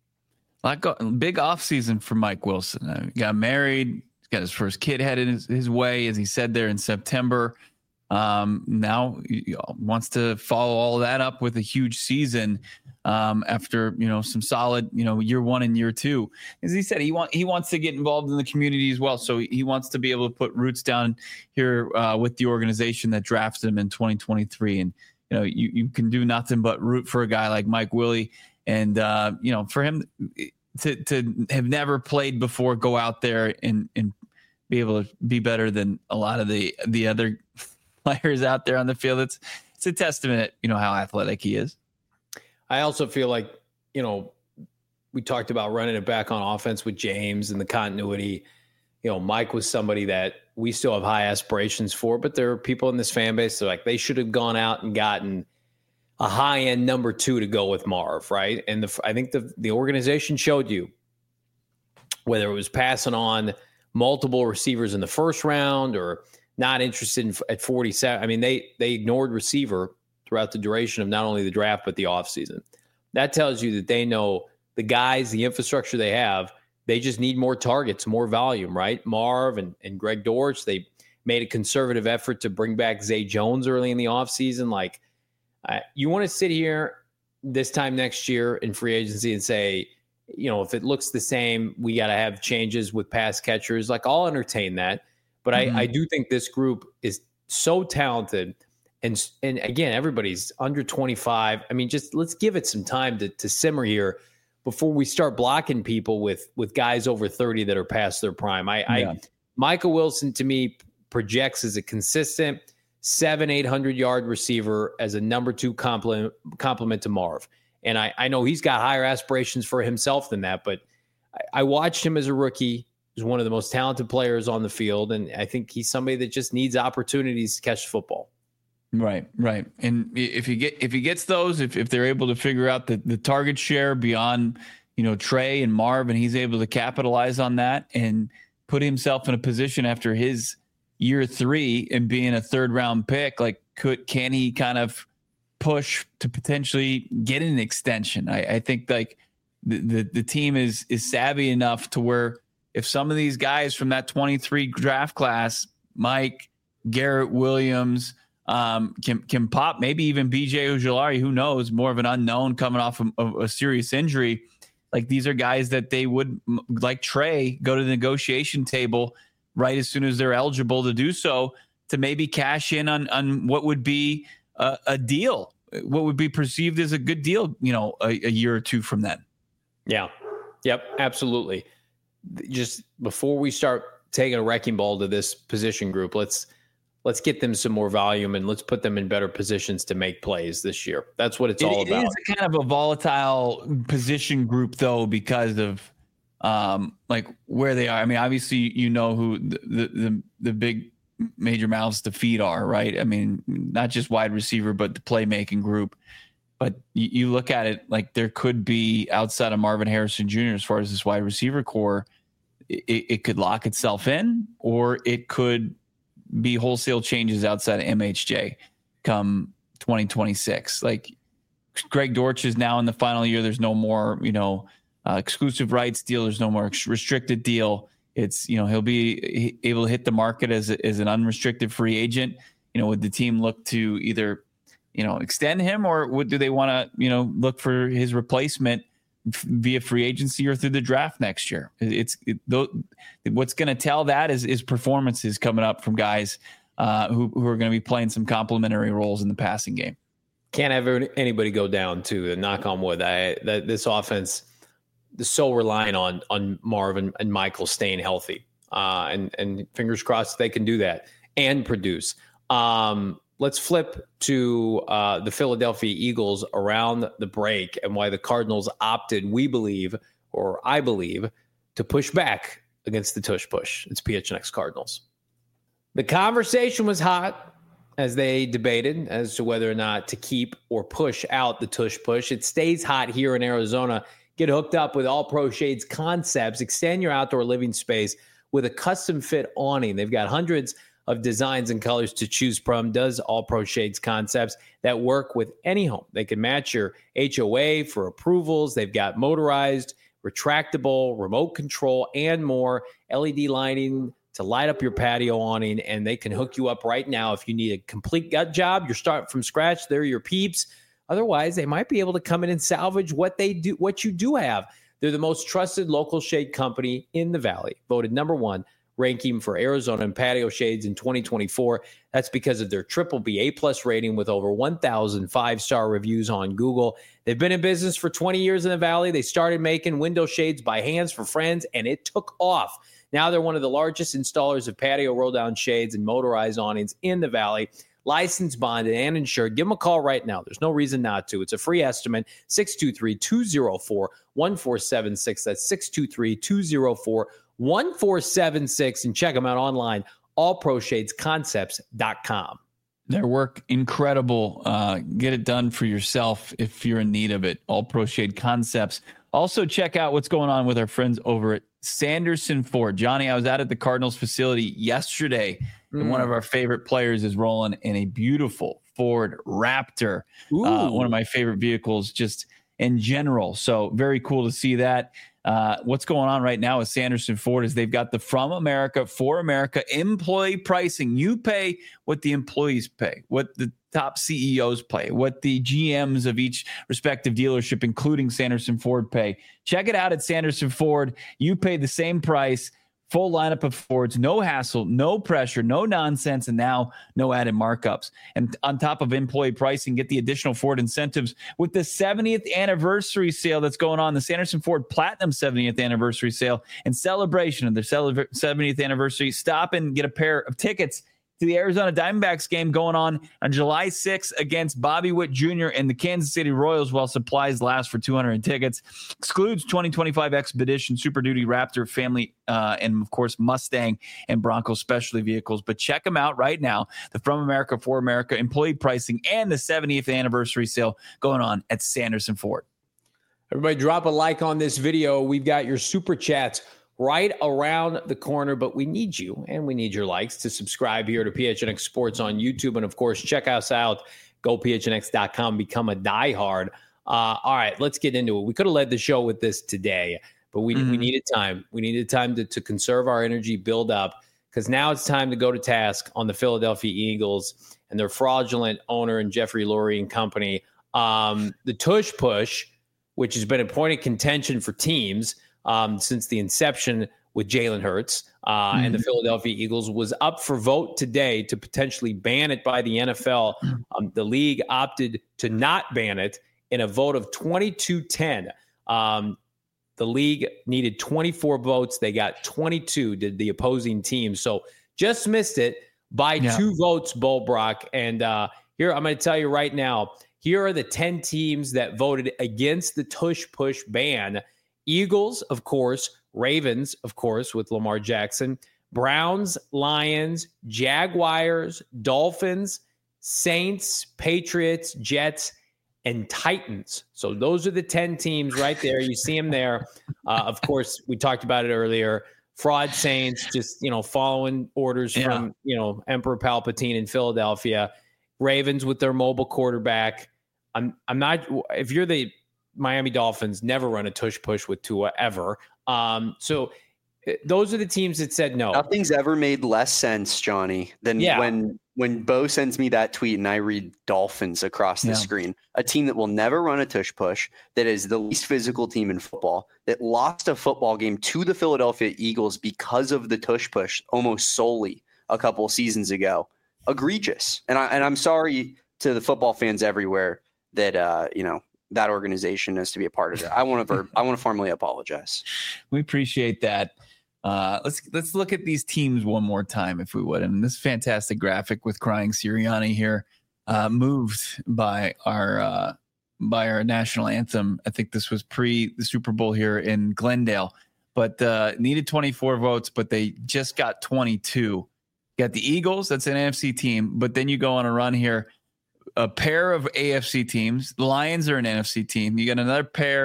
Big offseason for Mike Wilson. He got married. He's got his first kid headed his way, as he said there in September. Now he wants to follow all that up with a huge season after some solid year 1 and year 2. As he said, he wants to get involved in the community as well. So he wants to be able to put roots down here with the organization that drafted him in 2023. And you can do nothing but root for a guy like Mike Willie. And, for him to have never played before, go out there and be able to be better than a lot of the other players out there on the field. It's a testament, how athletic he is. I also feel like, we talked about running it back on offense with James and the continuity. Mike was somebody that we still have high aspirations for, but there are people in this fan base that are like, they should have gone out and gotten a high-end number 2 to go with Marv, right? And I think the organization showed you, whether it was passing on multiple receivers in the first round or not interested at 47. I mean, they ignored receiver throughout the duration of not only the draft but the offseason. That tells you that they know the guys, the infrastructure they have, they just need more targets, more volume, right? Marv and Greg Dortch, they made a conservative effort to bring back Zay Jones early in the offseason. Like, you want to sit here this time next year in free agency and say, if it looks the same, we got to have changes with pass catchers. Like, I'll entertain that. But I do think this group is so talented. And again, everybody's under 25. I mean, just let's give it some time to simmer here before we start blocking people with guys over 30 that are past their prime. Michael Wilson, to me, projects as a consistent 700-800 yard receiver as a number 2 complement to Marv. And I know he's got higher aspirations for himself than that, but I watched him as a rookie. He's one of the most talented players on the field, and I think he's somebody that just needs opportunities to catch the football. Right. And if he gets those, if they're able to figure out the target share beyond, Trey and Marv, and he's able to capitalize on that and put himself in a position after his year 3 and being a 3rd round pick, like can he kind of push to potentially get an extension? I think like the team is savvy enough to where if some of these guys from that 23 draft class, Mike, Garrett Williams, can pop, maybe even BJ Ojulari, who knows, more of an unknown coming off of a serious injury. Like these are guys that they would, like Trey, go to the negotiation table right as soon as they're eligible to do so, to maybe cash in on what would be a deal, what would be perceived as a good deal, a year or two from then. Yeah. Yep. Absolutely. Just before we start taking a wrecking ball to this position group, let's get them some more volume and let's put them in better positions to make plays this year. That's what it's all about. It is kind of a volatile position group though, because of like where they are. I mean, obviously, who the big major mouths to feed are, right? I mean, not just wide receiver, but the playmaking group. But you look at it like there could be, outside of Marvin Harrison Jr., as far as this wide receiver core, it could lock itself in, or it could be wholesale changes outside of MHJ come 2026. Like Greg Dortch is now in the final year. There's no more, exclusive rights deal. There's no more restricted deal. It's, he'll be able to hit the market as an unrestricted free agent. Would the team look to either, extend him, or do they want to, look for his replacement via free agency or through the draft next year? What's going to tell that is performances coming up from guys who are going to be playing some complementary roles in the passing game. Can't have anybody go down, to knock on wood. This offense is so reliant on Marvin and Michael staying healthy, and fingers crossed they can do that and produce. Let's flip to the Philadelphia Eagles around the break and why the Cardinals opted, I believe, to push back against the tush push. It's PHNX Cardinals. The conversation was hot as they debated as to whether or not to keep or push out the tush push. It stays hot here in Arizona. Get hooked up with All Pro Shades Concepts. Extend your outdoor living space with a custom fit awning. They've got hundreds of designs and colors to choose from. Does All Pro Shades Concepts that work with any home. They can match your HOA for approvals. They've got motorized, retractable, remote control, and more. LED lighting to light up your patio awning, and they can hook you up right now. If you need a complete gut job, you're starting from scratch, they're your peeps. Otherwise, they might be able to come in and salvage what you do have. They're the most trusted local shade company in the Valley, voted number 1 ranking for Arizona and patio shades in 2024. That's because of their BBB A+ rating with over 1,000 5-star reviews on Google. They've been in business for 20 years in the Valley. They started making window shades by hands for friends, and it took off. Now they're one of the largest installers of patio roll-down shades and motorized awnings in the Valley. Licensed, bonded, and insured. Give them a call right now. There's no reason not to. It's a free estimate, 623-204-1476. That's 623-204-1476. And check them out online, allproshadesconcepts.com. Their work, incredible. Get it done for yourself if you're in need of it. All Pro Shade Concepts. Also, check out what's going on with our friends over at Sanderson Ford. Johnny, I was out at the Cardinals facility yesterday, and one of our favorite players is rolling in a beautiful Ford Raptor, one of my favorite vehicles just in general. So very cool to see that. What's going on right now with Sanderson Ford is they've got the From America, for America employee pricing. You pay what the employees pay, what the top CEOs pay, what the GMs of each respective dealership, including Sanderson Ford, pay. Check it out at Sanderson Ford. You pay the same price, full lineup of Fords, no hassle, no pressure, no nonsense, and now no added markups. And on top of employee pricing, get the additional Ford incentives with the 70th anniversary sale that's going on, the Sanderson Ford Platinum 70th anniversary sale. In celebration of their 70th anniversary, stop and get a pair of tickets to the Arizona Diamondbacks game going on July 6th against Bobby Witt Jr. and the Kansas City Royals while supplies last for 200 tickets. Excludes 2025 Expedition, Super Duty Raptor, Family, and, of course, Mustang and Bronco specialty vehicles. But check them out right now. The From America, For America, employee pricing, and the 70th anniversary sale going on at Sanderson Ford. Everybody drop a like on this video. We've got your super chats right around the corner, but we need you and we need your likes to subscribe here to PHNX Sports on YouTube. And of course, check us out, gophnx.com, become a diehard. All right, let's get into it. We could have led the show with this today, but we needed time. We needed time to conserve our energy, build up, because now it's time to go to task on the Philadelphia Eagles and their fraudulent owner and Jeffrey Lurie and company. The tush push, which has been a point of contention for teams since the inception with Jalen Hurts and the Philadelphia Eagles, was up for vote today to potentially ban it by the NFL. The league opted to not ban it in a vote of 22-10. The league needed 24 votes. They got 22, did the opposing team. So just missed it by 2 votes, Bull Brock. And here, I'm going to tell you right now, here are the 10 teams that voted against the tush push ban. Eagles, of course, Ravens, of course, with Lamar Jackson, Browns, Lions, Jaguars, Dolphins, Saints, Patriots, Jets, and Titans. So those are the 10 teams right there. You see them there. Of course, we talked about it earlier. Fraud Saints, just, following orders from, Emperor Palpatine in Philadelphia. Ravens with their mobile quarterback. I'm not, if you're the Miami Dolphins, never run a tush push with Tua ever. So those are the teams that said no. Nothing's ever made less sense, Johnny, than when Bo sends me that tweet and I read Dolphins across the screen. A team that will never run a tush push, that is the least physical team in football, that lost a football game to the Philadelphia Eagles because of the tush push almost solely a couple seasons ago. Egregious. And I'm sorry to the football fans everywhere that that organization is to be a part of it. I want to formally apologize. We appreciate that. Let's look at these teams one more time, if we would. And this fantastic graphic with Crying Sirianni here, moved by our national anthem. I think this was pre the Super Bowl here in Glendale, but needed 24 votes, but they just got 22. Got the Eagles, that's an NFC team, but then you go on a run here. A pair of AFC teams. The Lions are an NFC team. You got another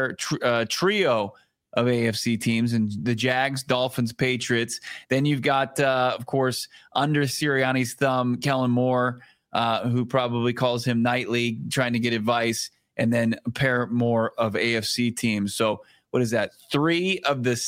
trio of AFC teams, and the Jags, Dolphins, Patriots. Then you've got, of course, under Sirianni's thumb, Kellen Moore, who probably calls him nightly, trying to get advice, and then a pair more of AFC teams. So what is that? 3 of the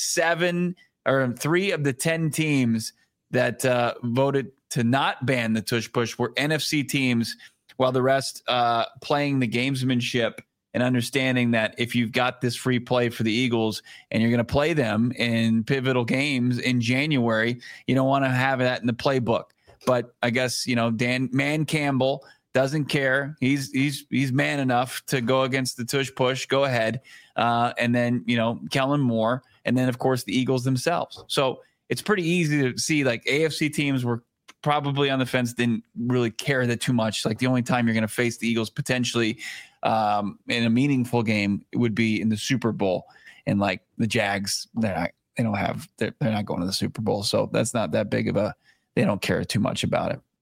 10 teams that voted to not ban the tush push were NFC teams, while the rest playing the gamesmanship and understanding that if you've got this free play for the Eagles and you're going to play them in pivotal games in January, you don't want to have that in the playbook. But I guess, Dan Campbell doesn't care. He's man enough to go against the tush push. Go ahead. And then, Kellen Moore, and then, of course, the Eagles themselves. So it's pretty easy to see, like, AFC teams were probably on the fence, didn't really care that too much. Like, the only time you're going to face the Eagles potentially in a meaningful game would be in the Super Bowl. And like the Jags, they're not going to the Super Bowl. So that's not that big of they don't care too much about it.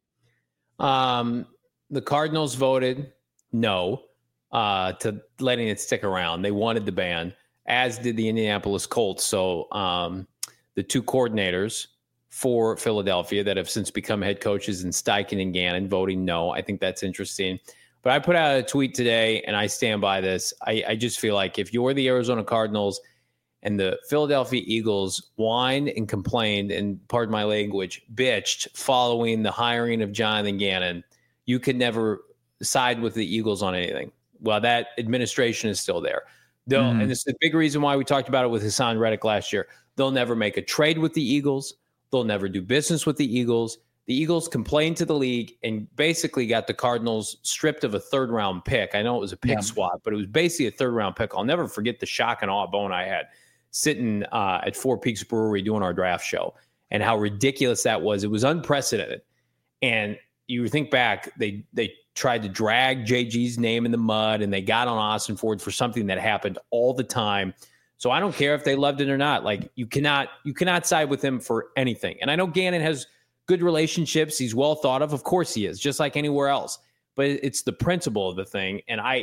The Cardinals voted no to letting it stick around. They wanted the ban, as did the Indianapolis Colts. So the 2 coordinators for Philadelphia that have since become head coaches in Steichen and Gannon voting no. I think that's interesting. But I put out a tweet today, and I stand by this. I just feel like if you're the Arizona Cardinals and the Philadelphia Eagles whined and complained, and pardon my language, bitched following the hiring of Jonathan Gannon, you could never side with the Eagles on anything. Well, that administration is still there. And this is the big reason why we talked about it with Hassan Reddick last year. They'll never make a trade with the Eagles. They'll never do business with the Eagles. The Eagles complained to the league and basically got the Cardinals stripped of a 3rd-round pick. I know it was a pick swap, but it was basically a 3rd-round pick. I'll never forget the shock and awe bone I had sitting at Four Peaks Brewery doing our draft show and how ridiculous that was. It was unprecedented. And you think back, they tried to drag JG's name in the mud, and they got on Austin Ford for something that happened all the time. So I don't care if they loved it or not. Like, you cannot side with him for anything. And I know Gannon has good relationships. He's well thought of. Of course he is, just like anywhere else. But it's the principle of the thing. And I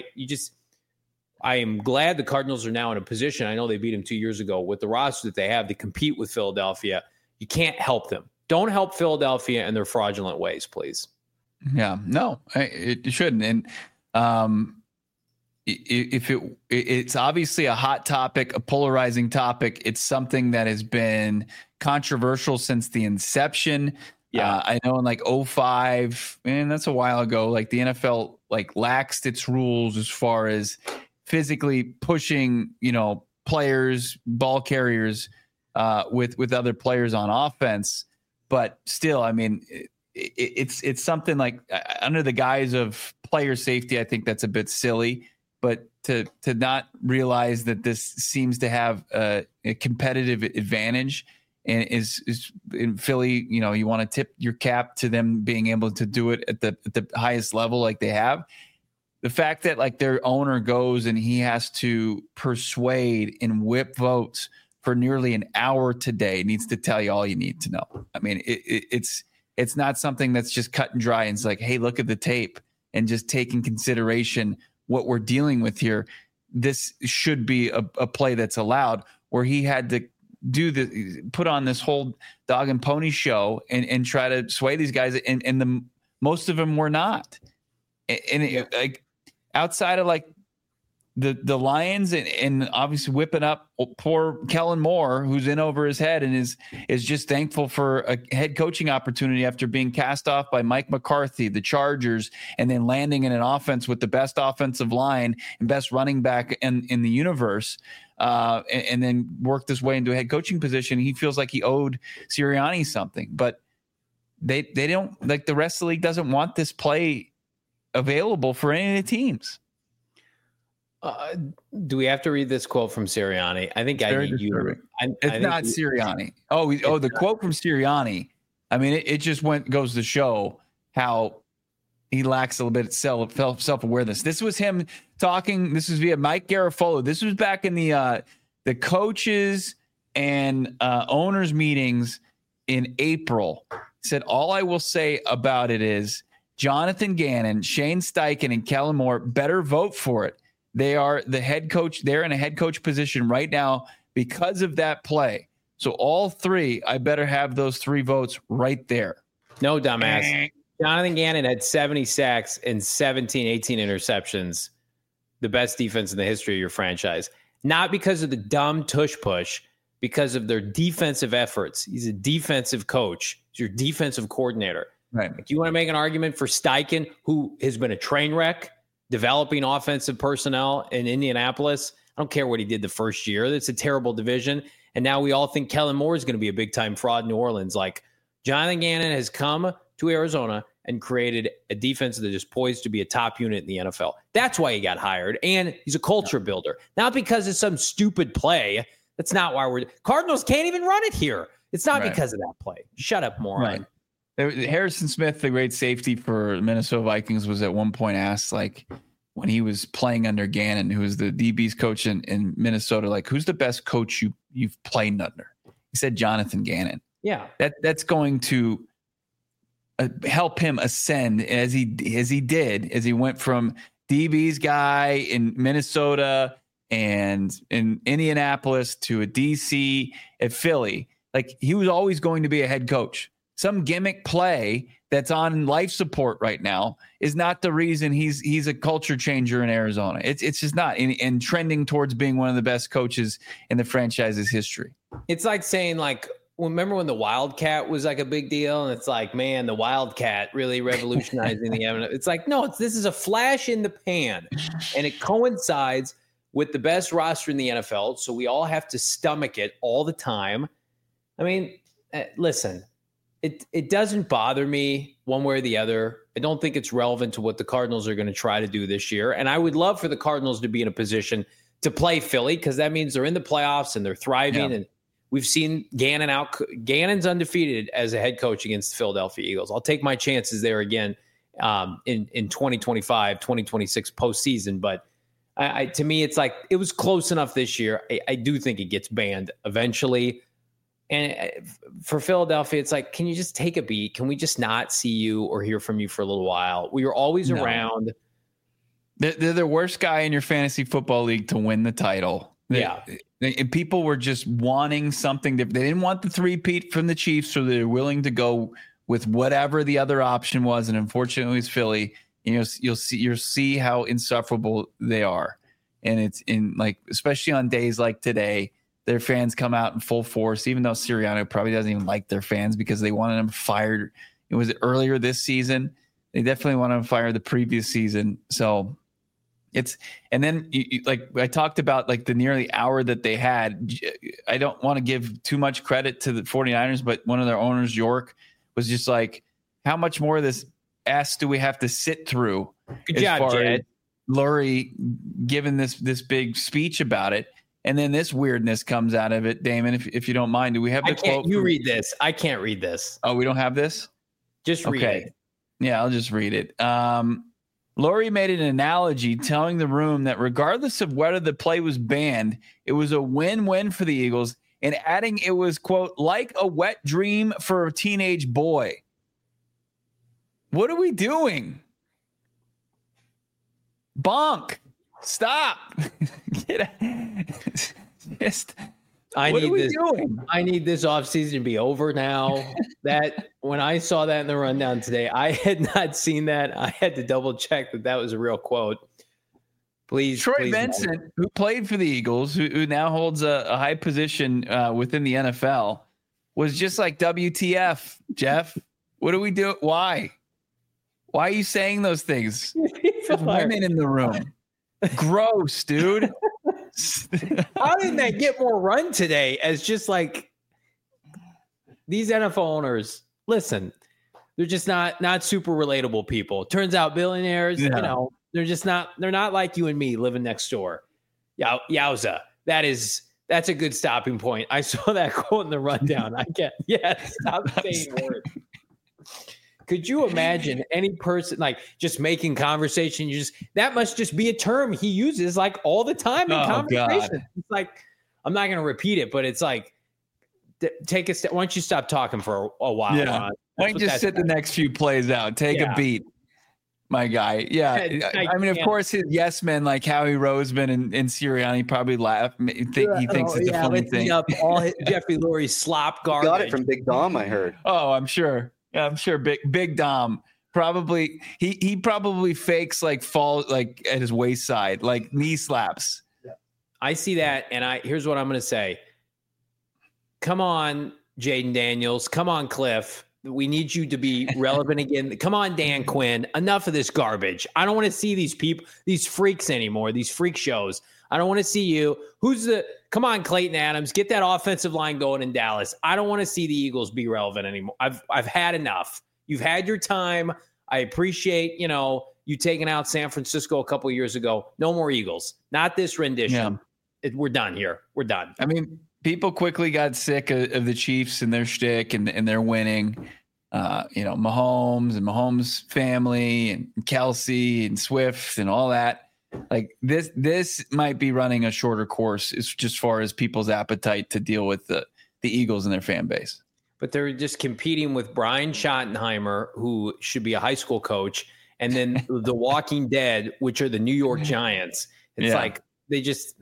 am glad the Cardinals are now in a position. I know they beat him 2 years ago with the roster that they have to compete with Philadelphia. You can't help them. Don't help Philadelphia in their fraudulent ways, please. Yeah, no, it shouldn't. And if it's obviously a hot topic, a polarizing topic. It's something that has been controversial since the inception. Yeah, I know in like 2005, and that's a while ago, like the NFL like laxed its rules as far as physically pushing, players, ball carriers with other players on offense. But still, I mean, it's something like under the guise of player safety, I think that's a bit silly. But to not realize that this seems to have a competitive advantage, and is in Philly, you want to tip your cap to them being able to do it at the highest level like they have. The fact that like their owner goes and he has to persuade and whip votes for nearly an hour today needs to tell you all you need to know. I mean, it's not something that's just cut and dry. And it's like, hey, look at the tape and just take in consideration what we're dealing with here. This should be a play that's allowed, where he had to put on this whole dog and pony show and try to sway these guys. And most of them were not. And like outside of like the Lions and obviously whipping up poor Kellen Moore, who's in over his head and is just thankful for a head coaching opportunity after being cast off by Mike McCarthy, the Chargers, and then landing in an offense with the best offensive line and best running back in the universe, and then worked his way into a head coaching position. He feels like he owed Sirianni something, but they don't, like, the rest of the league doesn't want this play available for any of the teams. Do we have to read this quote from Sirianni? I think I need you. It's not Sirianni. The quote from Sirianni. I mean, it just goes to show how he lacks a little bit of self-awareness. This was him talking. This was via Mike Garafolo. This was back in the coaches and owners meetings in April. He said, all I will say about it is Jonathan Gannon, Shane Steichen, and Kellen Moore better vote for it. They are the head coach. They're in a head coach position right now because of that play. So all three, I better have those three votes right there. No, dumbass. Jonathan Gannon had 70 sacks and 18 interceptions. The best defense in the history of your franchise. Not because of the dumb tush push, because of their defensive efforts. He's a defensive coach. He's your defensive coordinator. Right. Like, you want to make an argument for Steichen, who has been a train wreck developing offensive personnel in Indianapolis? I don't care what he did the first year. It's a terrible division. And now we all think Kellen Moore is going to be a big-time fraud in New Orleans. Like, Jonathan Gannon has come to Arizona and created a defense that is poised to be a top unit in the NFL. That's why he got hired. And he's a culture builder. Not because it's some stupid play. That's not why Cardinals can't even run it here. It's not because of that play. Shut up, moron. Right. Harrison Smith, the great safety for Minnesota Vikings, was at one point asked, like, when he was playing under Gannon, who was the DB's coach in Minnesota, like, who's the best coach you've played under? He said Jonathan Gannon. Yeah. That's going to help him ascend as he went from DB's guy in Minnesota and in Indianapolis to a DC at Philly. Like, he was always going to be a head coach. Some gimmick play that's on life support right now is not the reason he's a culture changer in Arizona. It's just not, and trending towards being one of the best coaches in the franchise's history. It's like saying, like, remember when the Wildcat was like a big deal? And it's like, man, the Wildcat really revolutionizing the NFL. It's like, no, this is a flash in the pan, and it coincides with the best roster in the NFL. So we all have to stomach it all the time. I mean, listen. It doesn't bother me one way or the other. I don't think it's relevant to what the Cardinals are going to try to do this year. And I would love for the Cardinals to be in a position to play Philly, because that means they're in the playoffs and they're thriving. Yeah. And We've seen Gannon out. Gannon's undefeated as a head coach against the Philadelphia Eagles. I'll take my chances there again in 2025, 2026 postseason. But to me, it's like it was close enough this year. I do think it gets banned eventually. And for Philadelphia, it's like, can you just take a beat? Can we just not see you or hear from you for a little while? We were always around. They're the worst guy in your fantasy football league to win the title. And people were just wanting something that they didn't want the three-peat from the Chiefs, so they're willing to go with whatever the other option was. And unfortunately, it's Philly. You'll see how insufferable they are. And it's especially on days like today, their fans come out in full force, even though Sirianni probably doesn't even like their fans because they wanted him fired. It was earlier this season. They definitely wanted him fired the previous season. So and then like I talked about, like the nearly hour that they had. I don't want to give too much credit to the 49ers, but one of their owners, York, was just like, how much more of this ass do we have to sit through? Good job, Jed. Lurie giving this big speech about it. And then this weirdness comes out of it. Damon, if you don't mind, do we have the quote? You read this. I can't read this. Oh, we don't have this? Just read it. Yeah, I'll just read it. Lurie made an analogy telling the room that regardless of whether the play was banned, it was a win-win for the Eagles, and adding it was, quote, like a wet dream for a teenage boy. What are we doing? Bonk. Stop. I need this offseason to be over now. That when I saw that in the rundown today, I had not seen that. I had to double check that was a real quote. Please, Troy Vincent, who played for the Eagles, who now holds a high position within the NFL, was just like, WTF, Jeff? What do we do? Why are you saying those things? There's women in the room. Gross, dude. How did that get more run today? As just like these NFL owners, listen, they're just not super relatable people. Turns out billionaires, they're not like you and me living next door. Yowza. That's a good stopping point. I saw that quote in the rundown. Stop saying words. Could you imagine any person like just making conversation? That must just be a term he uses like all the time in conversation. God. It's like, I'm not going to repeat it, but it's like, take a step. Why don't you stop talking for a while? Yeah. Why don't you just sit the next few plays out? Take a beat, my guy. Yeah. I mean, of course, his yes men like Howie Roseman and Sirianni probably laugh. He thinks it's a funny thing. Up all Jeffrey Lurie's slop garbage. Got it from Big Dom, I heard. Oh, I'm sure. Yeah, I'm sure Big Dom probably he probably fakes like fall like at his waist side, like knee slaps. Yeah. I see that, and here's what I'm going to say. Come on, Jaden Daniels. Come on, Cliff. We need you to be relevant again. Come on, Dan Quinn. Enough of this garbage. I don't want to see these people, these freaks anymore, these freak shows. I don't want to see you. Come on, Clayton Adams, get that offensive line going in Dallas. I don't want to see the Eagles be relevant anymore. I've had enough. You've had your time. I appreciate, you taking out San Francisco a couple of years ago. No more Eagles. Not this rendition. Yeah. We're done here. We're done. I mean, people quickly got sick of the Chiefs and their shtick and their winning. Mahomes and Mahomes' family and Kelsey and Swift and all that. Like this might be running a shorter course as just far as people's appetite to deal with the Eagles and their fan base. But they're just competing with Brian Schottenheimer, who should be a high school coach, and then the Walking Dead, which are the New York Giants. It's like they just,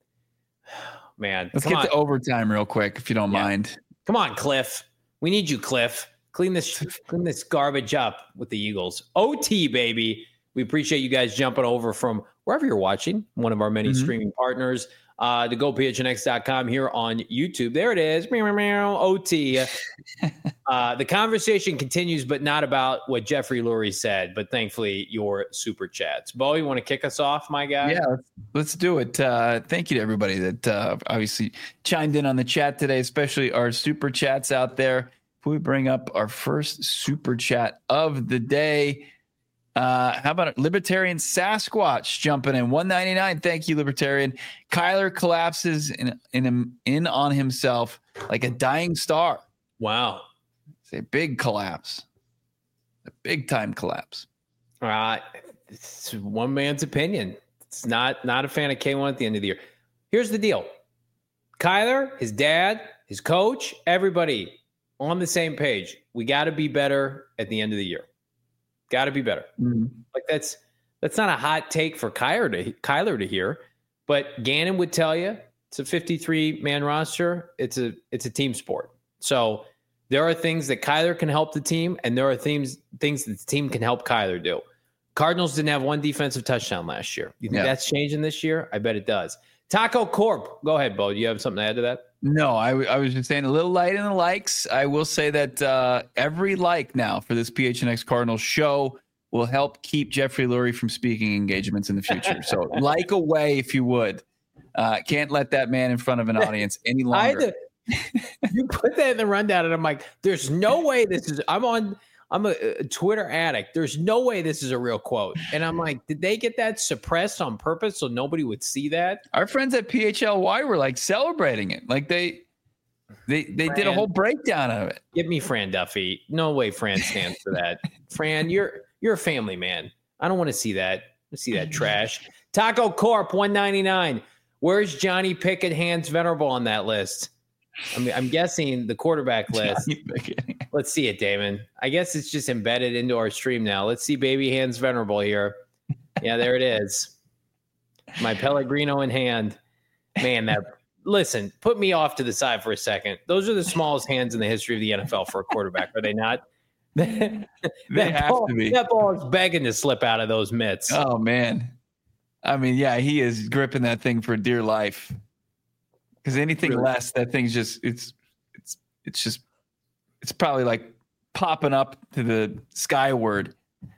man. Let's get to overtime real quick, if you don't mind. Come on, Cliff. We need you, Cliff. Clean this garbage up with the Eagles. OT, baby. We appreciate you guys jumping over from wherever you're watching, one of our many streaming partners, to GoPHNX.com here on YouTube. There it is. OT. The conversation continues, but not about what Jeffrey Lurie said, but thankfully your super chats. Bo, you want to kick us off, my guy? Yeah, let's do it. Thank you to everybody that obviously chimed in on the chat today, especially our super chats out there. If we bring up our first super chat of the day, how about Libertarian Sasquatch jumping in 199? Thank you, Libertarian. Kyler collapses in on himself. like a dying star. Wow. It's a big collapse, a big time collapse. It's one man's opinion. It's not a fan of K1 at the end of the year. Here's the deal. Kyler, his dad, his coach, everybody on the same page. We got to be better at the end of the year. Got to be better. Mm-hmm. Like that's not a hot take for Kyler to hear, but Gannon would tell you it's a 53-man roster. It's a team sport. So there are things that Kyler can help the team, and there are things that the team can help Kyler do. Cardinals didn't have one defensive touchdown last year. You think that's changing this year? I bet it does. Taco Corp. Go ahead, Bo. Do you have something to add to that? No, I was just saying a little light in the likes. I will say that every like now for this PHNX Cardinals show will help keep Jeffrey Lurie from speaking engagements in the future. So like away if you would. Can't let that man in front of an audience any longer. You put that in the rundown, and I'm like, there's no way this is – I'm a Twitter addict. There's no way this is a real quote. And I'm like, did they get that suppressed on purpose so nobody would see that? Our friends at PHLY were like celebrating it. Like they did a whole breakdown of it. Give me Fran Duffy. No way Fran stands for that. Fran, you're a family man. I don't want to see that. Trash. Taco Corp 199. Where's Johnny Pickett, Hans Venerable on that list? I mean, I'm guessing the quarterback list. Let's see it, Damon. I guess it's just embedded into our stream now. Let's see baby Hans Venerable here. Yeah, there it is. My Pellegrino in hand. Man, listen, put me off to the side for a second. Those are the smallest hands in the history of the NFL for a quarterback, are they not? They have to be. That ball is begging to slip out of those mitts. Oh, man. I mean, yeah, he is gripping that thing for dear life. Because anything less, that thing's just it's probably like popping up to the skyward.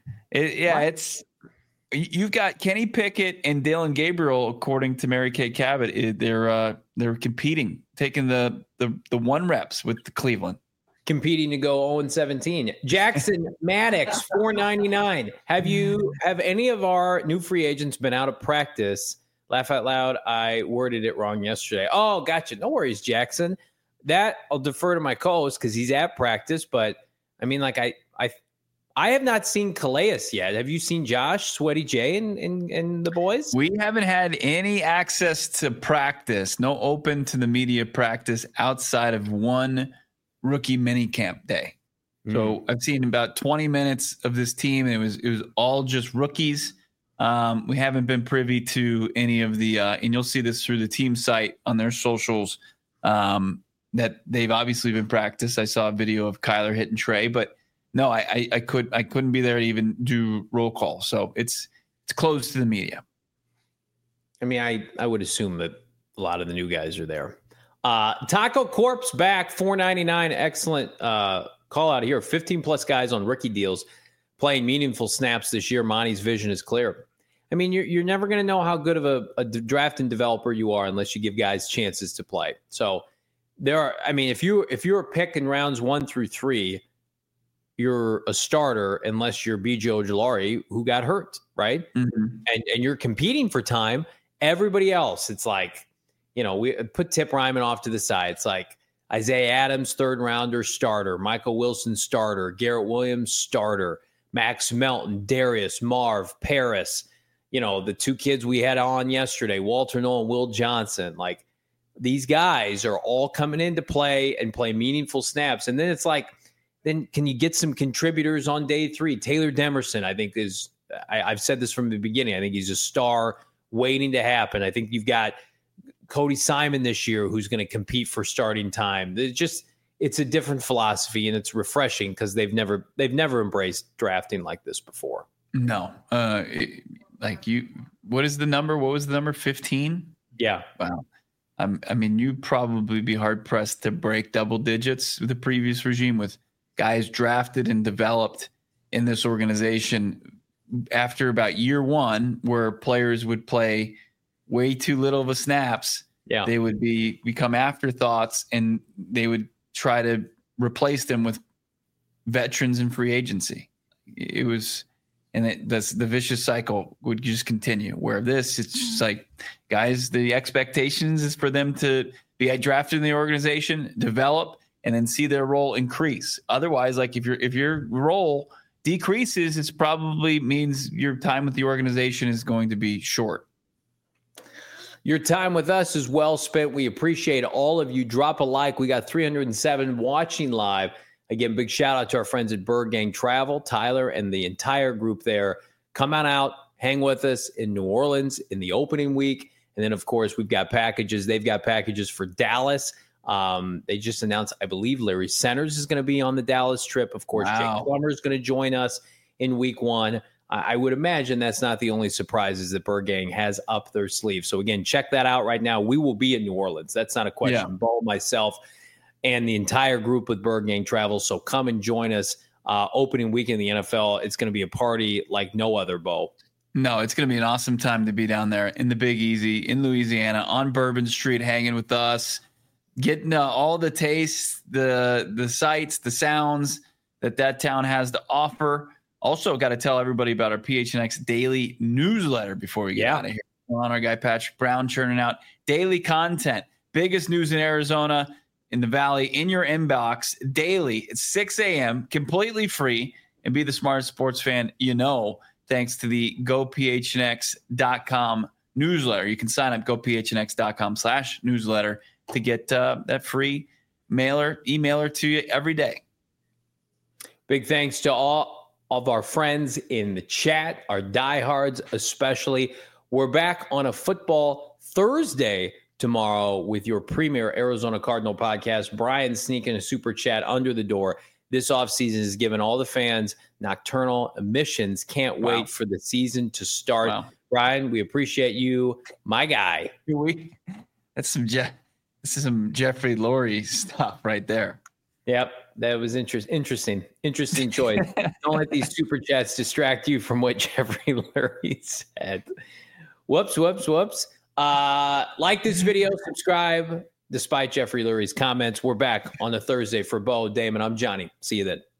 You've got Kenny Pickett and Dillon Gabriel, according to Mary Kay Cabot. They're competing, taking the one reps with the Cleveland, competing to go 0-17. Jackson Maddox 499. Have any of our new free agents been out of practice? Laugh out loud. I worded it wrong yesterday. Oh, gotcha. No worries, Jackson. That I'll defer to my co-host because he's at practice. But I mean, like I have not seen Calais yet. Have you seen Josh, Sweaty J, and the boys? We haven't had any access to practice. No open to the media practice outside of one rookie minicamp day. So I've seen about 20 minutes of this team, and it was all just rookies. We haven't been privy to any of the, and you'll see this through the team site on their socials, that they've obviously been practiced. I saw a video of Kyler hitting Trey, but no, I couldn't be there to even do roll call. So it's closed to the media. I mean, I would assume that a lot of the new guys are there. Taco Corp's back, $4.99. Excellent call out here. 15 plus guys on rookie deals playing meaningful snaps this year. Monty's vision is clear. I mean, you're never going to know how good of a draft and developer you are unless you give guys chances to play. So if you're picking rounds 1 through 3, you're a starter unless you're B.J. Ojulari, who got hurt, right? Mm-hmm. And you're competing for time. Everybody else, it's like, we put Tip Ryman off to the side. It's like Isaiah Adams, 3rd rounder, starter. Michael Wilson, starter. Garrett Williams, starter. Max Melton, Darius, Marv, Paris. The 2 kids we had on yesterday, Walter Nolan, Will Johnson. Like, these guys are all coming into play and play meaningful snaps. And then it's like, then can you get some contributors on day 3? Taylor Demerson, I think, is I've said this from the beginning. I think he's a star waiting to happen. I think you've got Cody Simon this year who's going to compete for starting time. It's a different philosophy, and it's refreshing because they've never embraced drafting like this before. No. What is the number? What was the number? 15? Yeah. Wow. I mean, you'd probably be hard pressed to break double digits with the previous regime with guys drafted and developed in this organization after about year 1, where players would play way too little of a snaps. Yeah. They would become afterthoughts, and they would try to replace them with veterans in free agency. It was, and that's the vicious cycle would just continue. Where it's just like, guys, the expectations is for them to be drafted in the organization, develop, and then see their role increase. Otherwise, like if your role decreases, it probably means your time with the organization is going to be short. Your time with us is well spent. We appreciate all of you. Drop a like. We got 307 watching live. Again, big shout out to our friends at Bird Gang Travel, Tyler and the entire group there. Come on out, hang with us in New Orleans in the opening week. And then, of course, we've got packages. They've got packages for Dallas. They just announced, I believe, Larry Centers is going to be on the Dallas trip. Of course, wow. Jake Plummer is going to join us in week 1. I would imagine that's not the only surprises that Bird Gang has up their sleeve. So, again, check that out right now. We will be in New Orleans. That's not a question. Yeah. Bo, myself, and the entire group with Bird Gang Travel. So come and join us opening week in the NFL. It's going to be a party like no other, Bo. No, it's going to be an awesome time to be down there in the Big Easy in Louisiana on Bourbon Street, hanging with us, getting all the tastes, the sights, the sounds that town has to offer. Also, got to tell everybody about our PHNX daily newsletter before we get out of here. We're on our guy Patrick Brown churning out daily content, biggest news in Arizona, in the Valley, in your inbox daily at 6 a.m., completely free, and be the smartest sports fan you know, thanks to the GoPHNX.com newsletter. You can sign up GoPHNX.com/newsletter to get that free emailer to you every day. Big thanks to all of our friends in the chat, our diehards especially. We're back on a Football Thursday tomorrow with your premier Arizona Cardinal podcast. Brian sneaking a super chat under the door. This offseason has given all the fans nocturnal emissions. Can't wait for the season to start. Wow. Brian, we appreciate you, my guy. That's some Jeffrey Lurie stuff right there. Yep, that was interesting choice. Don't let these super chats distract you from what Jeffrey Lurie said. Whoops. Like this video, subscribe. Despite Jeffrey Lurie's comments, we're back on a Thursday for Bo, Damon. I'm Johnny. See you then.